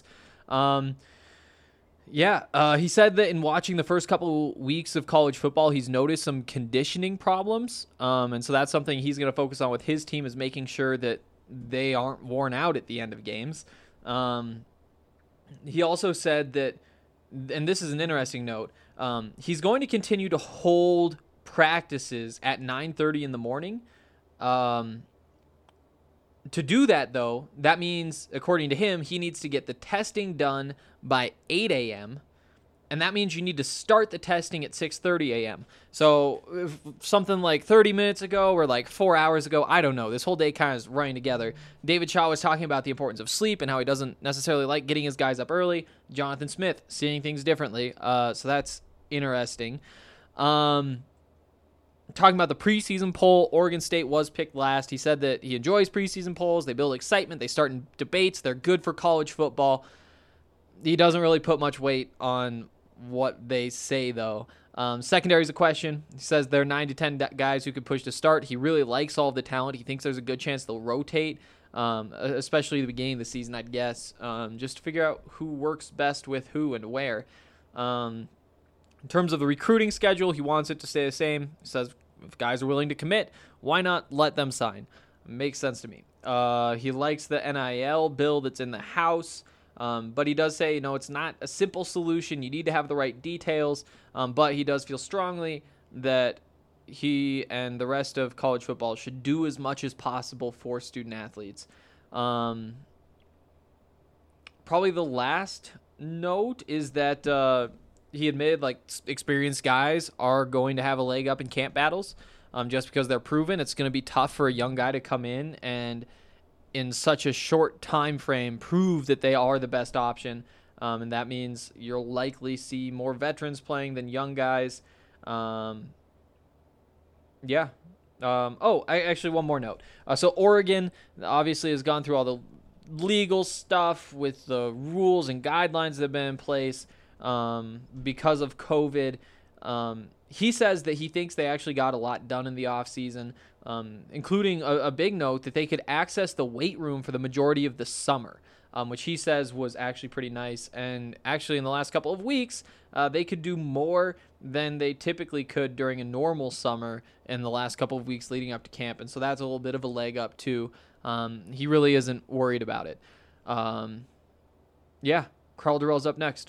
He said that in watching the first couple weeks of college football, he's noticed some conditioning problems. And so that's something he's going to focus on with his team, is making sure that they aren't worn out at the end of games. He also said that, and this is an interesting note, he's going to continue to hold practices at 9:30 in the morning. To do that, though, that means, according to him, he needs to get the testing done by 8 a.m., and that means you need to start the testing at 6:30 a.m. So if something like 30 minutes ago or like 4 hours ago, I don't know. This whole day kind of is running together. David Shaw was talking about the importance of sleep and how he doesn't necessarily like getting his guys up early. Jonathan Smith seeing things differently. So that's interesting. Talking about the preseason poll, Oregon State was picked last. He said that he enjoys preseason polls. They build excitement. They start in debates. They're good for college football. He doesn't really put much weight on what they say, though. Secondary is a question. He says there are 9 to 10 guys who could push to start. He really likes all of the talent. He thinks there's a good chance they'll rotate, especially at the beginning of the season, I'd guess, just to figure out who works best with who and where. In terms of the recruiting schedule, he wants it to stay the same. He says if guys are willing to commit, why not let them sign? Makes sense to me. He likes the NIL bill that's in the House, but he does say, it's not a simple solution. You need to have the right details, but he does feel strongly that he and the rest of college football should do as much as possible for student athletes. Probably the last note is that he admitted experienced guys are going to have a leg up in camp battles just because they're proven. It's going to be tough for a young guy to come in and in such a short time frame prove that they are the best option. And that means you'll likely see more veterans playing than young guys. Actually, one more note. So Oregon obviously has gone through all the legal stuff with the rules and guidelines that have been in place because of COVID. He says that he thinks they actually got a lot done in the offseason, including a big note that they could access the weight room for the majority of the summer, which he says was actually pretty nice. And actually in the last couple of weeks, they could do more than they typically could during a normal summer in the last couple of weeks leading up to camp. And so that's a little bit of a leg up too. He really isn't worried about it. Carl Durrell's up next.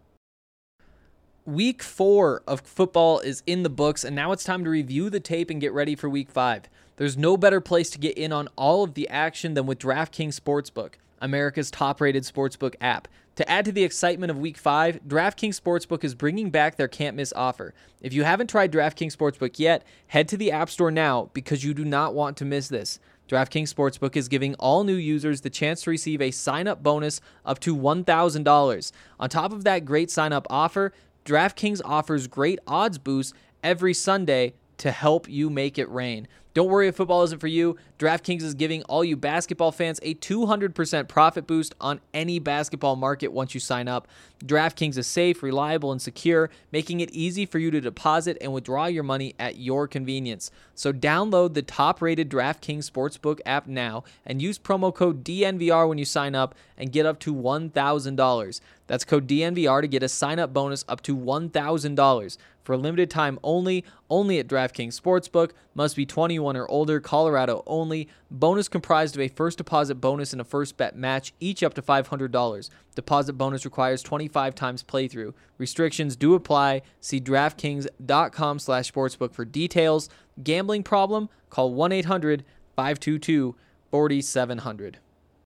Week 4 of football is in the books, and now it's time to review the tape and get ready for Week 5. There's no better place to get in on all of the action than with DraftKings Sportsbook, America's top-rated sportsbook app. To add to the excitement of Week 5, DraftKings Sportsbook is bringing back their can't-miss offer. If you haven't tried DraftKings Sportsbook yet, head to the App Store now because you do not want to miss this. DraftKings Sportsbook is giving all new users the chance to receive a sign-up bonus up to $1,000. On top of that great sign-up offer, DraftKings offers great odds boosts every Sunday to help you make it rain. Don't worry if football isn't for you. DraftKings is giving all you basketball fans a 200% profit boost on any basketball market once you sign up. DraftKings is safe, reliable, and secure, making it easy for you to deposit and withdraw your money at your convenience. So download the top-rated DraftKings Sportsbook app now and use promo code DNVR when you sign up and get up to $1,000. That's code DNVR to get a sign-up bonus up to $1,000. For a limited time only at DraftKings Sportsbook. Must be 21 21 or older, Colorado only. Bonus comprised of a first deposit bonus and a first bet match, each up to $500. Deposit bonus requires 25 times playthrough. Restrictions do apply. See DraftKings.com/sportsbook for details. Gambling problem? Call 1-800-522-4700.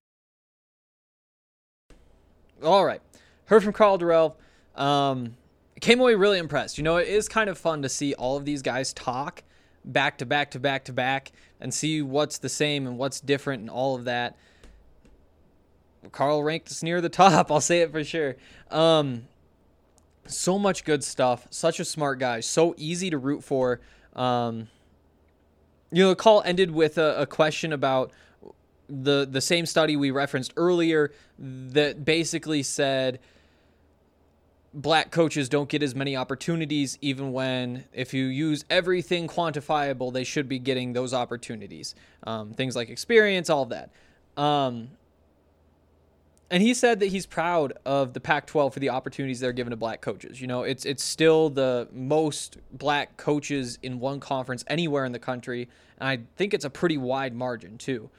All right. Heard from Karl Dorrell. Came away really impressed. It is kind of fun to see all of these guys talk back to back to back to back and see what's the same and what's different and all of that. Karl ranked us near the top. I'll say it for sure. So much good stuff. Such a smart guy. So easy to root for. The call ended with a question about the same study we referenced earlier that basically said black coaches don't get as many opportunities, even when, if you use everything quantifiable, they should be getting those opportunities. Things like experience, all of that. And he said that he's proud of the Pac-12 for the opportunities they're given to black coaches. It's still the most black coaches in one conference anywhere in the country, and I think it's a pretty wide margin too.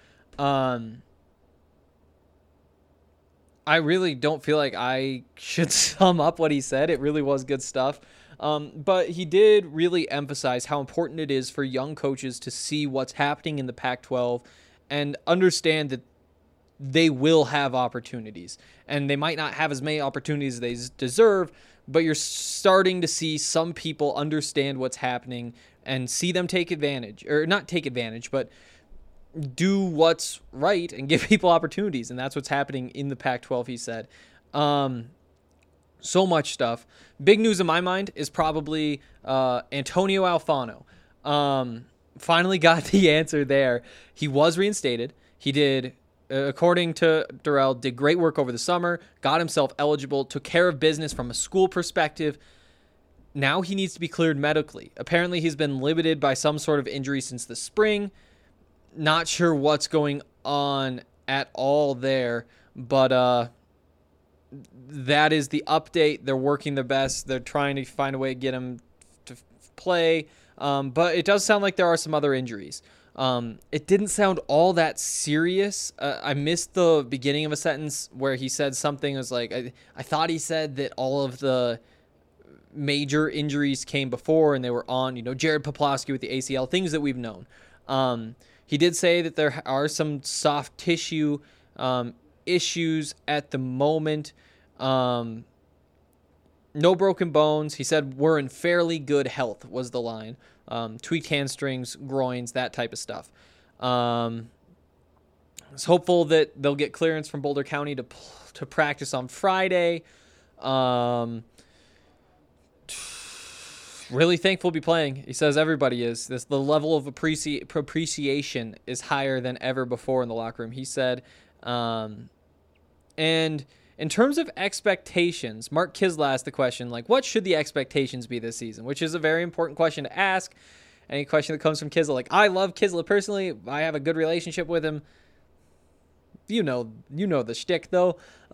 I really don't feel like I should sum up what he said. It really was good stuff. But he did really emphasize how important it is for young coaches to see what's happening in the Pac-12 and understand that they will have opportunities. And they might not have as many opportunities as they deserve, but you're starting to see some people understand what's happening and see them take advantage. Or not take advantage, but do what's right and give people opportunities. And that's what's happening in the Pac-12, he said. So much stuff. Big news in my mind is probably Antonio Alfano. Finally got the answer there. He was reinstated. He did, according to Dorrell, did great work over the summer, got himself eligible, took care of business from a school perspective. Now he needs to be cleared medically. Apparently he's been limited by some sort of injury since the spring. Not sure what's going on at all there, but that is the update. They're working their best. They're trying to find a way to get him to play, but it does sound like there are some other injuries. It didn't sound all that serious. I missed the beginning of a sentence where he said something. It was like, I thought he said that all of the major injuries came before and they were on, Jared Poplawski with the ACL, things that we've known. He did say that there are some soft tissue issues at the moment. No broken bones. He said we're in fairly good health was the line. Tweaked hamstrings, groins, that type of stuff. I was hopeful that they'll get clearance from Boulder County to practice on Friday. Really thankful to be playing. He says everybody is. The level of appreciation is higher than ever before in the locker room, he said. And in terms of expectations, Mark Kisla asked the question, what should the expectations be this season? Which is a very important question to ask. Any question that comes from Kisla, I love Kisla personally. I have a good relationship with him. You know the shtick, though.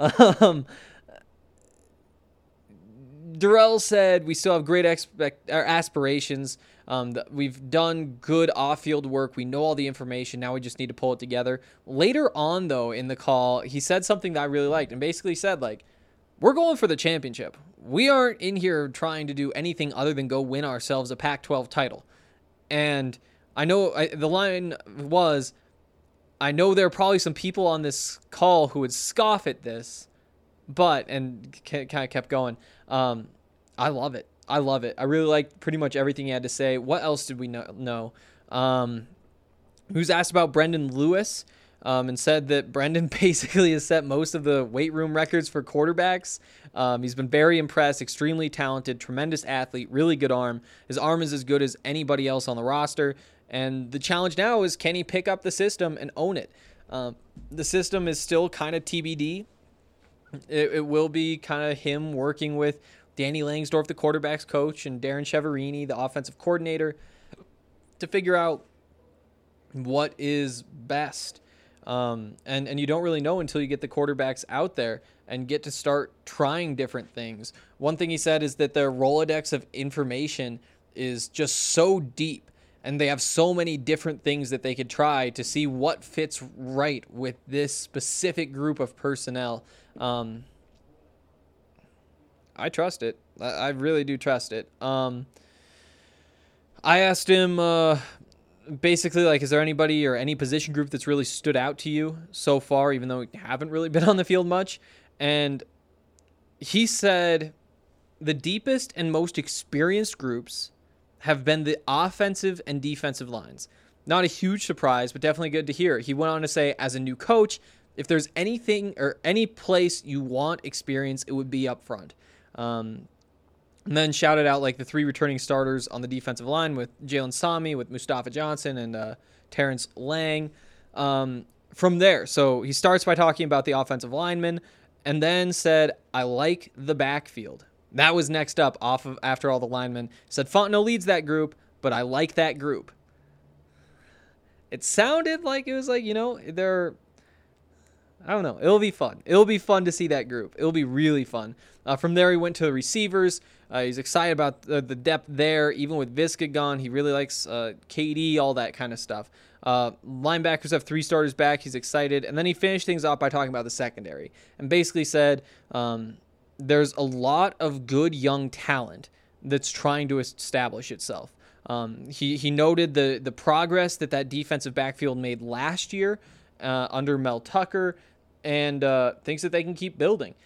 Dorrell said we still have great aspirations. We've done good off-field work. We know all the information. Now we just need to pull it together. Later on, though, in the call, he said something that I really liked and basically said, we're going for the championship. We aren't in here trying to do anything other than go win ourselves a Pac-12 title. And I know the line was, I know there are probably some people on this call who would scoff at this, and kind of kept going. I love it. I I really liked pretty much everything he had to say. What else did we know? He was asked about Brendan Lewis, and said that Brendan basically has set most of the weight room records for quarterbacks. He's been very impressed, extremely talented, tremendous athlete, really good arm. His arm is as good as anybody else on the roster. And the challenge now is, can he pick up the system and own it? The system is still kind of TBD. It will be kind of him working with Danny Langsdorf, the quarterback's coach, and Darren Cheverini, the offensive coordinator, to figure out what is best. And you don't really know until you get the quarterbacks out there and get to start trying different things. One thing he said is that their Rolodex of information is just so deep And they have so many different things that they could try to see what fits right with this specific group of personnel. I trust it. I really do trust it. I asked him basically, like, is there anybody or any position group that's really stood out to you so far, even though we haven't really been on the field much? And he said the deepest and most experienced groups have been the offensive and defensive lines. Not a huge surprise, but definitely good to hear. He went on to say, as a new coach, if there's anything or any place you want experience, it would be up front. And then shouted out like the 3 returning starters on the defensive line with Jalen Sami, with Mustafa Johnson, and Terrence Lang. From there, so he starts by talking about the offensive linemen, and then said, I like the backfield. That was next up after all the linemen. Said Fontenot leads that group, but I like that group. It sounded like it was like, they're, I don't know. It'll be fun. It'll be fun to see that group. It'll be really fun. From there, he went to the receivers. He's excited about the depth there. Even with Viska gone, he really likes KD, all that kind of stuff. Linebackers have 3 starters back. He's excited. And then he finished things off by talking about the secondary and basically said, there's a lot of good young talent that's trying to establish itself. He noted the progress that defensive backfield made last year under Mel Tucker, and thinks that they can keep building.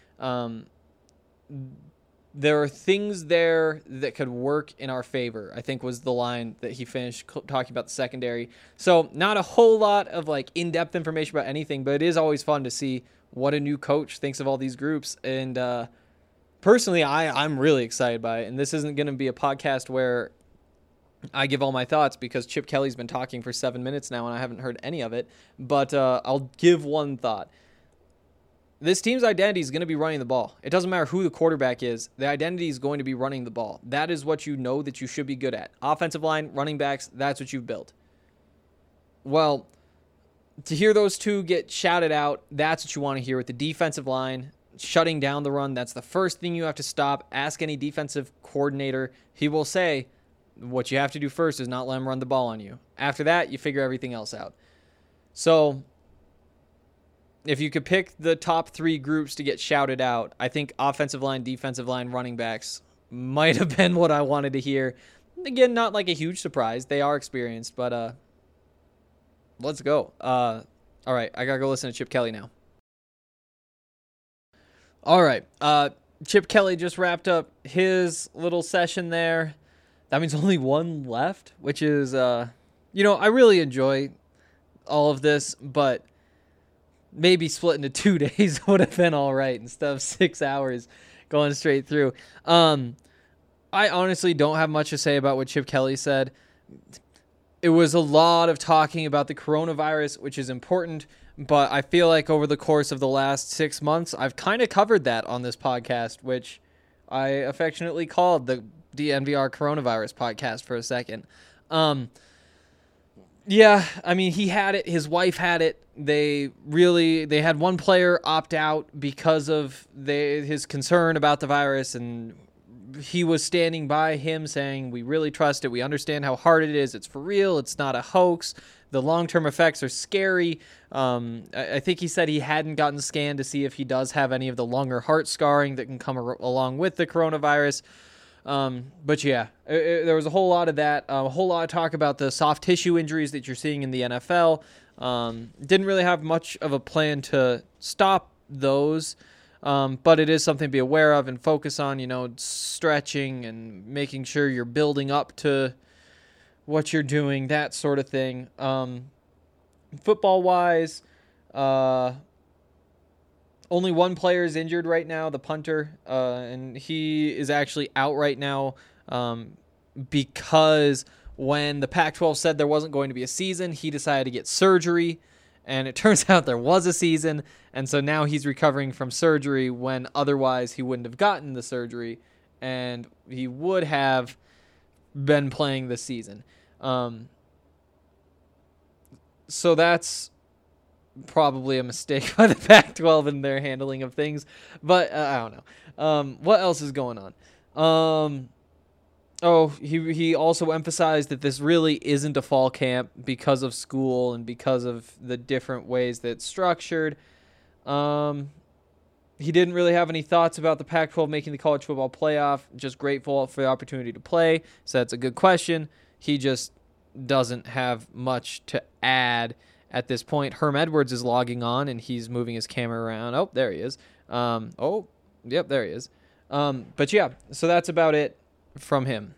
There are things there that could work in our favor, I think was the line that he finished talking about the secondary. So not a whole lot of like in-depth information about anything, but it is always fun to see what a new coach thinks of all these groups. And personally, I'm really excited by it. And this isn't going to be a podcast where I give all my thoughts because Chip Kelly's been talking for 7 minutes now and I haven't heard any of it. But I'll give one thought. This team's identity is going to be running the ball. It doesn't matter who the quarterback is. The identity is going to be running the ball. That is what you know that you should be good at. Offensive line, running backs, that's what you've built. Well, to hear those 2 get shouted out, that's what you want to hear with the defensive line. Shutting down the run, that's the first thing you have to stop. Ask any defensive coordinator. He will say, what you have to do first is not let him run the ball on you. After that, you figure everything else out. So if you could pick the top 3 groups to get shouted out, I think offensive line, defensive line, running backs might have been what I wanted to hear. Again, not like a huge surprise. They are experienced, but let's go. All right, I got to go listen to Chip Kelly now. All right, Chip Kelly just wrapped up his little session there. That means only one left, which is, I really enjoy all of this, but maybe split into 2 days would have been all right instead of 6 hours going straight through. I honestly don't have much to say about what Chip Kelly said. It was a lot of talking about the coronavirus, which is important, but I feel like over the course of the last 6 months, I've kind of covered that on this podcast, which I affectionately called the DNVR Coronavirus Podcast for a second. Yeah, I mean, he had it. His wife had it. They had one player opt out because of his concern about the virus, and he was standing by him saying, we really trust it. We understand how hard it is. It's for real. It's not a hoax. The long-term effects are scary. I think he said he hadn't gotten scanned to see if he does have any of the lung or heart scarring that can come along with the coronavirus. But yeah, there was a whole lot of that, a whole lot of talk about the soft tissue injuries that you're seeing in the NFL. Didn't really have much of a plan to stop those. But it is something to be aware of and focus on, stretching and making sure you're building up to what you're doing, that sort of thing. Football wise, only one player is injured right now, the punter, and he is actually out right now because when the Pac-12 said there wasn't going to be a season, he decided to get surgery, and it turns out there was a season, and so now he's recovering from surgery when otherwise he wouldn't have gotten the surgery, and he would have been playing this season. So that's probably a mistake by the Pac-12 in their handling of things, but I don't know. What else is going on? Oh, he also emphasized that this really isn't a fall camp because of school and because of the different ways that it's structured. He didn't really have any thoughts about the Pac-12 making the college football playoff. Just grateful for the opportunity to play. So that's a good question. He just doesn't have much to add at this point. Herm Edwards is logging on, and he's moving his camera around. Oh, there he is. Yep, there he is. But yeah, so that's about it from him.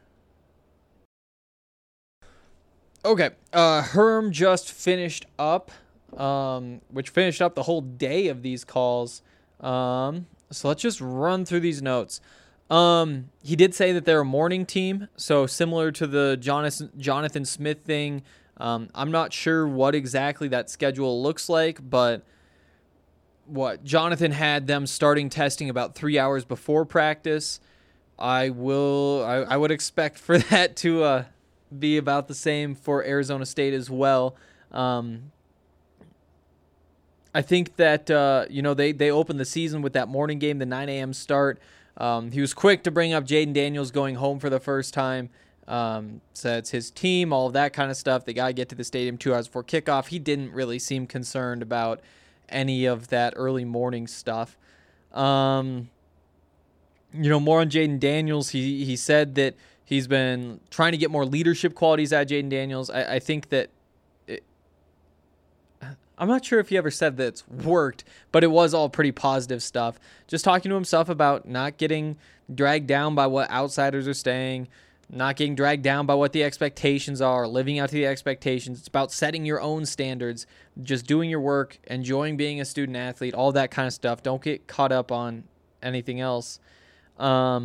Okay, Herm just finished up, which finished up the whole day of these calls. So let's just run through these notes. He did say that they're a morning team, so similar to the Jonathan Smith thing. I'm not sure what exactly that schedule looks like, but Jonathan had them starting testing about 3 hours before practice. I would expect for that to be about the same for Arizona State as well. I think that they opened the season with that morning game, the 9 a.m. start. He was quick to bring up Jaden Daniels going home for the first time. So it's his team, all of that kind of stuff. They got to get to the stadium 2 hours before kickoff. He didn't really seem concerned about any of that early morning stuff. More on Jaden Daniels. He said that he's been trying to get more leadership qualities out of Jaden Daniels. I think that I'm not sure if he ever said that it's worked, but it was all pretty positive stuff. Just talking to himself about not getting dragged down by what outsiders are saying, not getting dragged down by what the expectations are, living out to the expectations. It's about setting your own standards, just doing your work, enjoying being a student athlete, all that kind of stuff. Don't get caught up on anything else. He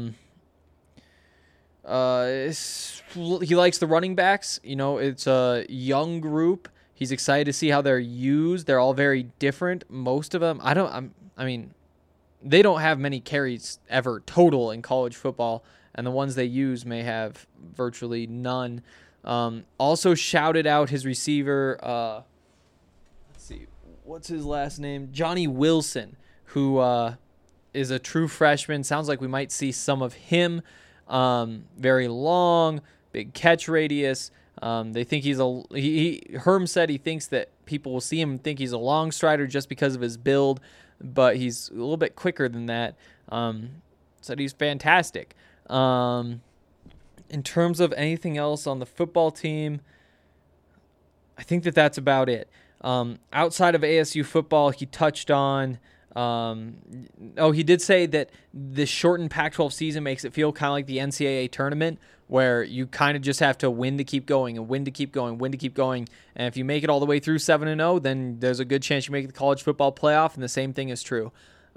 likes the running backs. It's a young group. He's excited to see how they're used. They're all very different. Most of them, they don't have many carries ever total in college football, and the ones they use may have virtually none. Also shouted out his receiver, let's see, what's his last name? Johnny Wilson, who is a true freshman. Sounds like we might see some of him. Very long, big catch radius. They think Herm said he thinks that people will see him and think he's a long strider just because of his build, but he's a little bit quicker than that. Said he's fantastic. In terms of anything else on the football team, I think that that's about it. Outside of ASU football, he touched on, he did say that the shortened Pac-12 season makes it feel kind of like the NCAA tournament, where you kind of just have to win to keep going and win to keep going, win to keep going. And if you make it all the way through 7-0, then there's a good chance you make the college football playoff, and the same thing is true.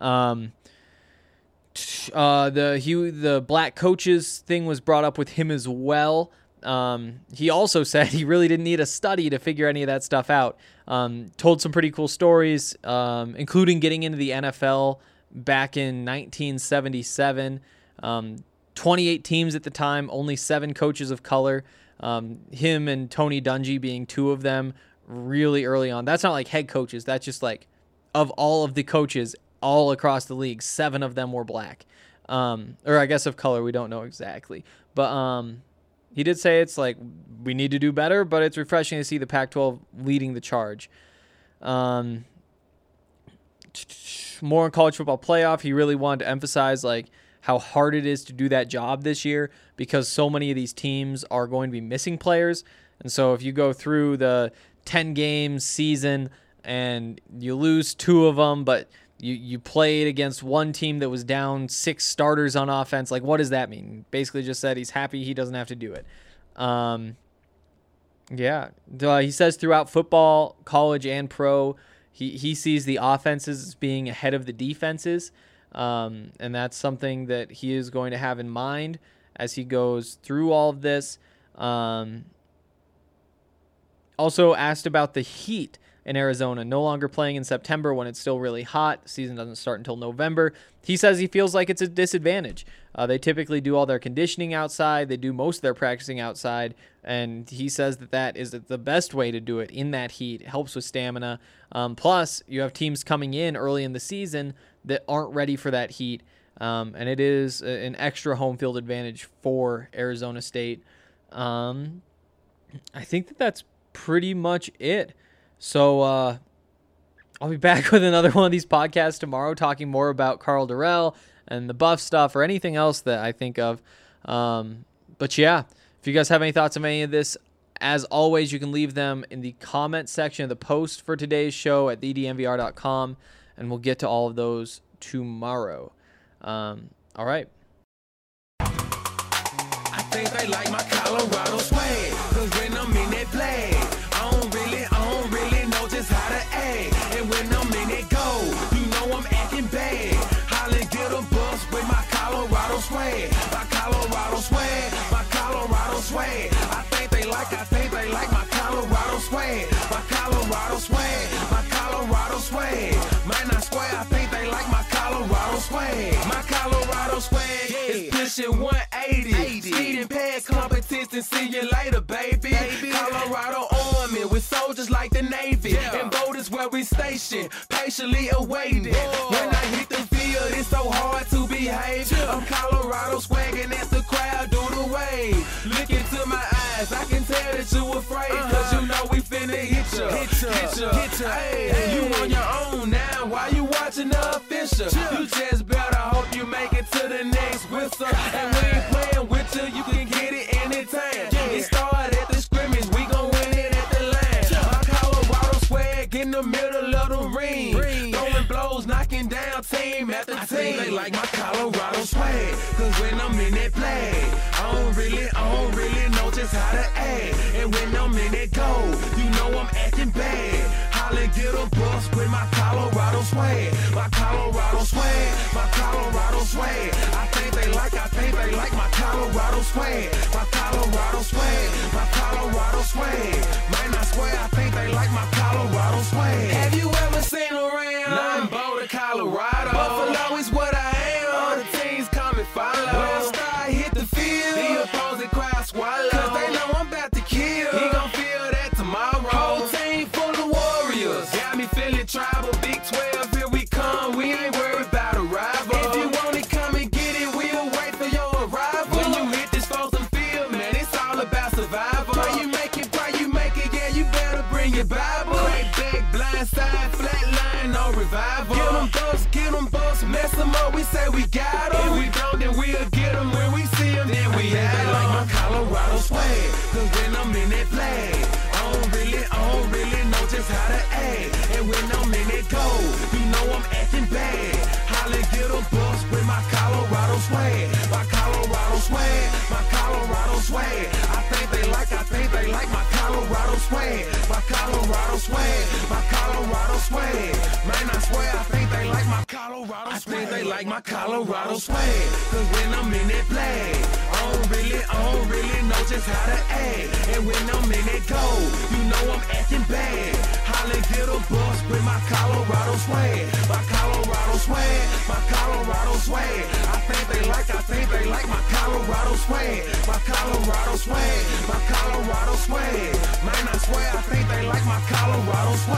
The black coaches thing was brought up with him as well. He also said he really didn't need a study to figure any of that stuff out. Told some pretty cool stories, including getting into the NFL back in 1977. 28 teams at the time, only 7 coaches of color. Him and Tony Dungy being 2 of them really early on. That's not like head coaches. That's just like of all of the coaches all across the league, 7 of them were black. Or I guess of color. We don't know exactly. But he did say it's like we need to do better, but it's refreshing to see the Pac-12 leading the charge. More on college football playoff. He really wanted to emphasize like how hard it is to do that job this year because so many of these teams are going to be missing players. And so if you go through the 10-game season and you lose 2 of them, but you played against one team that was down 6 starters on offense, like what does that mean? Basically just said he's happy he doesn't have to do it. He says throughout football, college and pro, he sees the offenses as being ahead of the defenses. And that's something that he is going to have in mind as he goes through all of this. Also asked about the heat in Arizona, no longer playing in September when it's still really hot. The season doesn't start until November. He says he feels like it's a disadvantage. They typically do all their conditioning outside. They do most of their practicing outside. And he says that is the best way to do it in that heat. It helps with stamina. Plus, you have teams coming in early in the season that aren't ready for that heat. and it is an extra home field advantage for Arizona State. I think that's pretty much it. So I'll be back with another one of these podcasts tomorrow, talking more about Karl Dorrell and the Buff stuff or anything else that I think of. But yeah, if you guys have any thoughts on any of this, as always, you can leave them in the comment section of the post for today's show at thednvr.com, and we'll get to all of those tomorrow. All right. I think they like my Colorado swag, 'cause when I'm in that flag, I don't really know just how to act. And when I'm in that goal, you know I'm acting bad. Holla, get a bus with my Colorado swag. My Colorado swag, my Colorado swag. I think they like my Colorado swag. My Colorado swag, my Colorado swag. Might not swear, I think they like my Colorado swag. My Colorado swag is pushing 180. Speed and pad competition, see you later, baby. Colorado Army with soldiers like the Navy. And boat is where we station, patiently awaiting. When I hit the field, it's so hard to behave. I'm Colorado swagging as the crowd do the wave. Look into my eyes, I can tell that you afraid. 'Cause you know we finna hit ya. Hey, you on your own now, why you watching the official? You just better hope you make it to the next whistle. And we ain't playing with you can get it anytime. It started at the scrimmage, we gon' win it at the line. My Colorado swag in the middle of the ring. Throwing blows, knocking down team after team. I think they like my Colorado swag, 'cause when I'm in that flag, I don't really know just how to act. And when I'm in that goal, you know I'm acting bad. Holla, get a bus with my Colorado swag. My Colorado swag, my Colorado swag. I think they like my Colorado swag. My Colorado swag, my Colorado swag. Might not swear, I think they like my Colorado swag. Have you ever seen around? Nah, I'm Boulder, Colorado. Buffalo is what I am. All the teams come and follow. When I start hit the field, the opposing crowd swallow. 'Cause they know I'm about to kill. He gon' feel that tomorrow. Whole team full of warriors. Got me feeling tribal. Big 12, here we come. We ain't worried about a rival. If you want it, come and get it. We'll wait for your arrival. When you hit this frozen field, man, it's all about survival. Pray you make it, yeah, you better bring your Bible. Crack back, blind side, flat line, no revival. Get them bucks, mess them up, we say we got them. If we don't, then we'll get them. When we see them, then we have them. Like my Colorado swag, 'cause when I'm in that flag, I don't really know just how to act. And when I'm in that goal, you know I'm acting bad. Holla, get a bus with my Colorado swag. My Colorado swag, my Colorado swag. I think they like my Colorado swag. My Colorado swag, my Colorado swag. Man, I swear, I think they like my Colorado swag. I think they like my Colorado swag. 'Cause when I'm in that flag, I don't really know just how to act. And when I'm in that goal, you know I'm acting bad. Holla, get a bus with my Colorado swag. My Colorado swag, my Colorado swag. I think they like my Colorado swag. My Colorado swag, my Colorado swag. Man, I swear, I think they like my Colorado swag.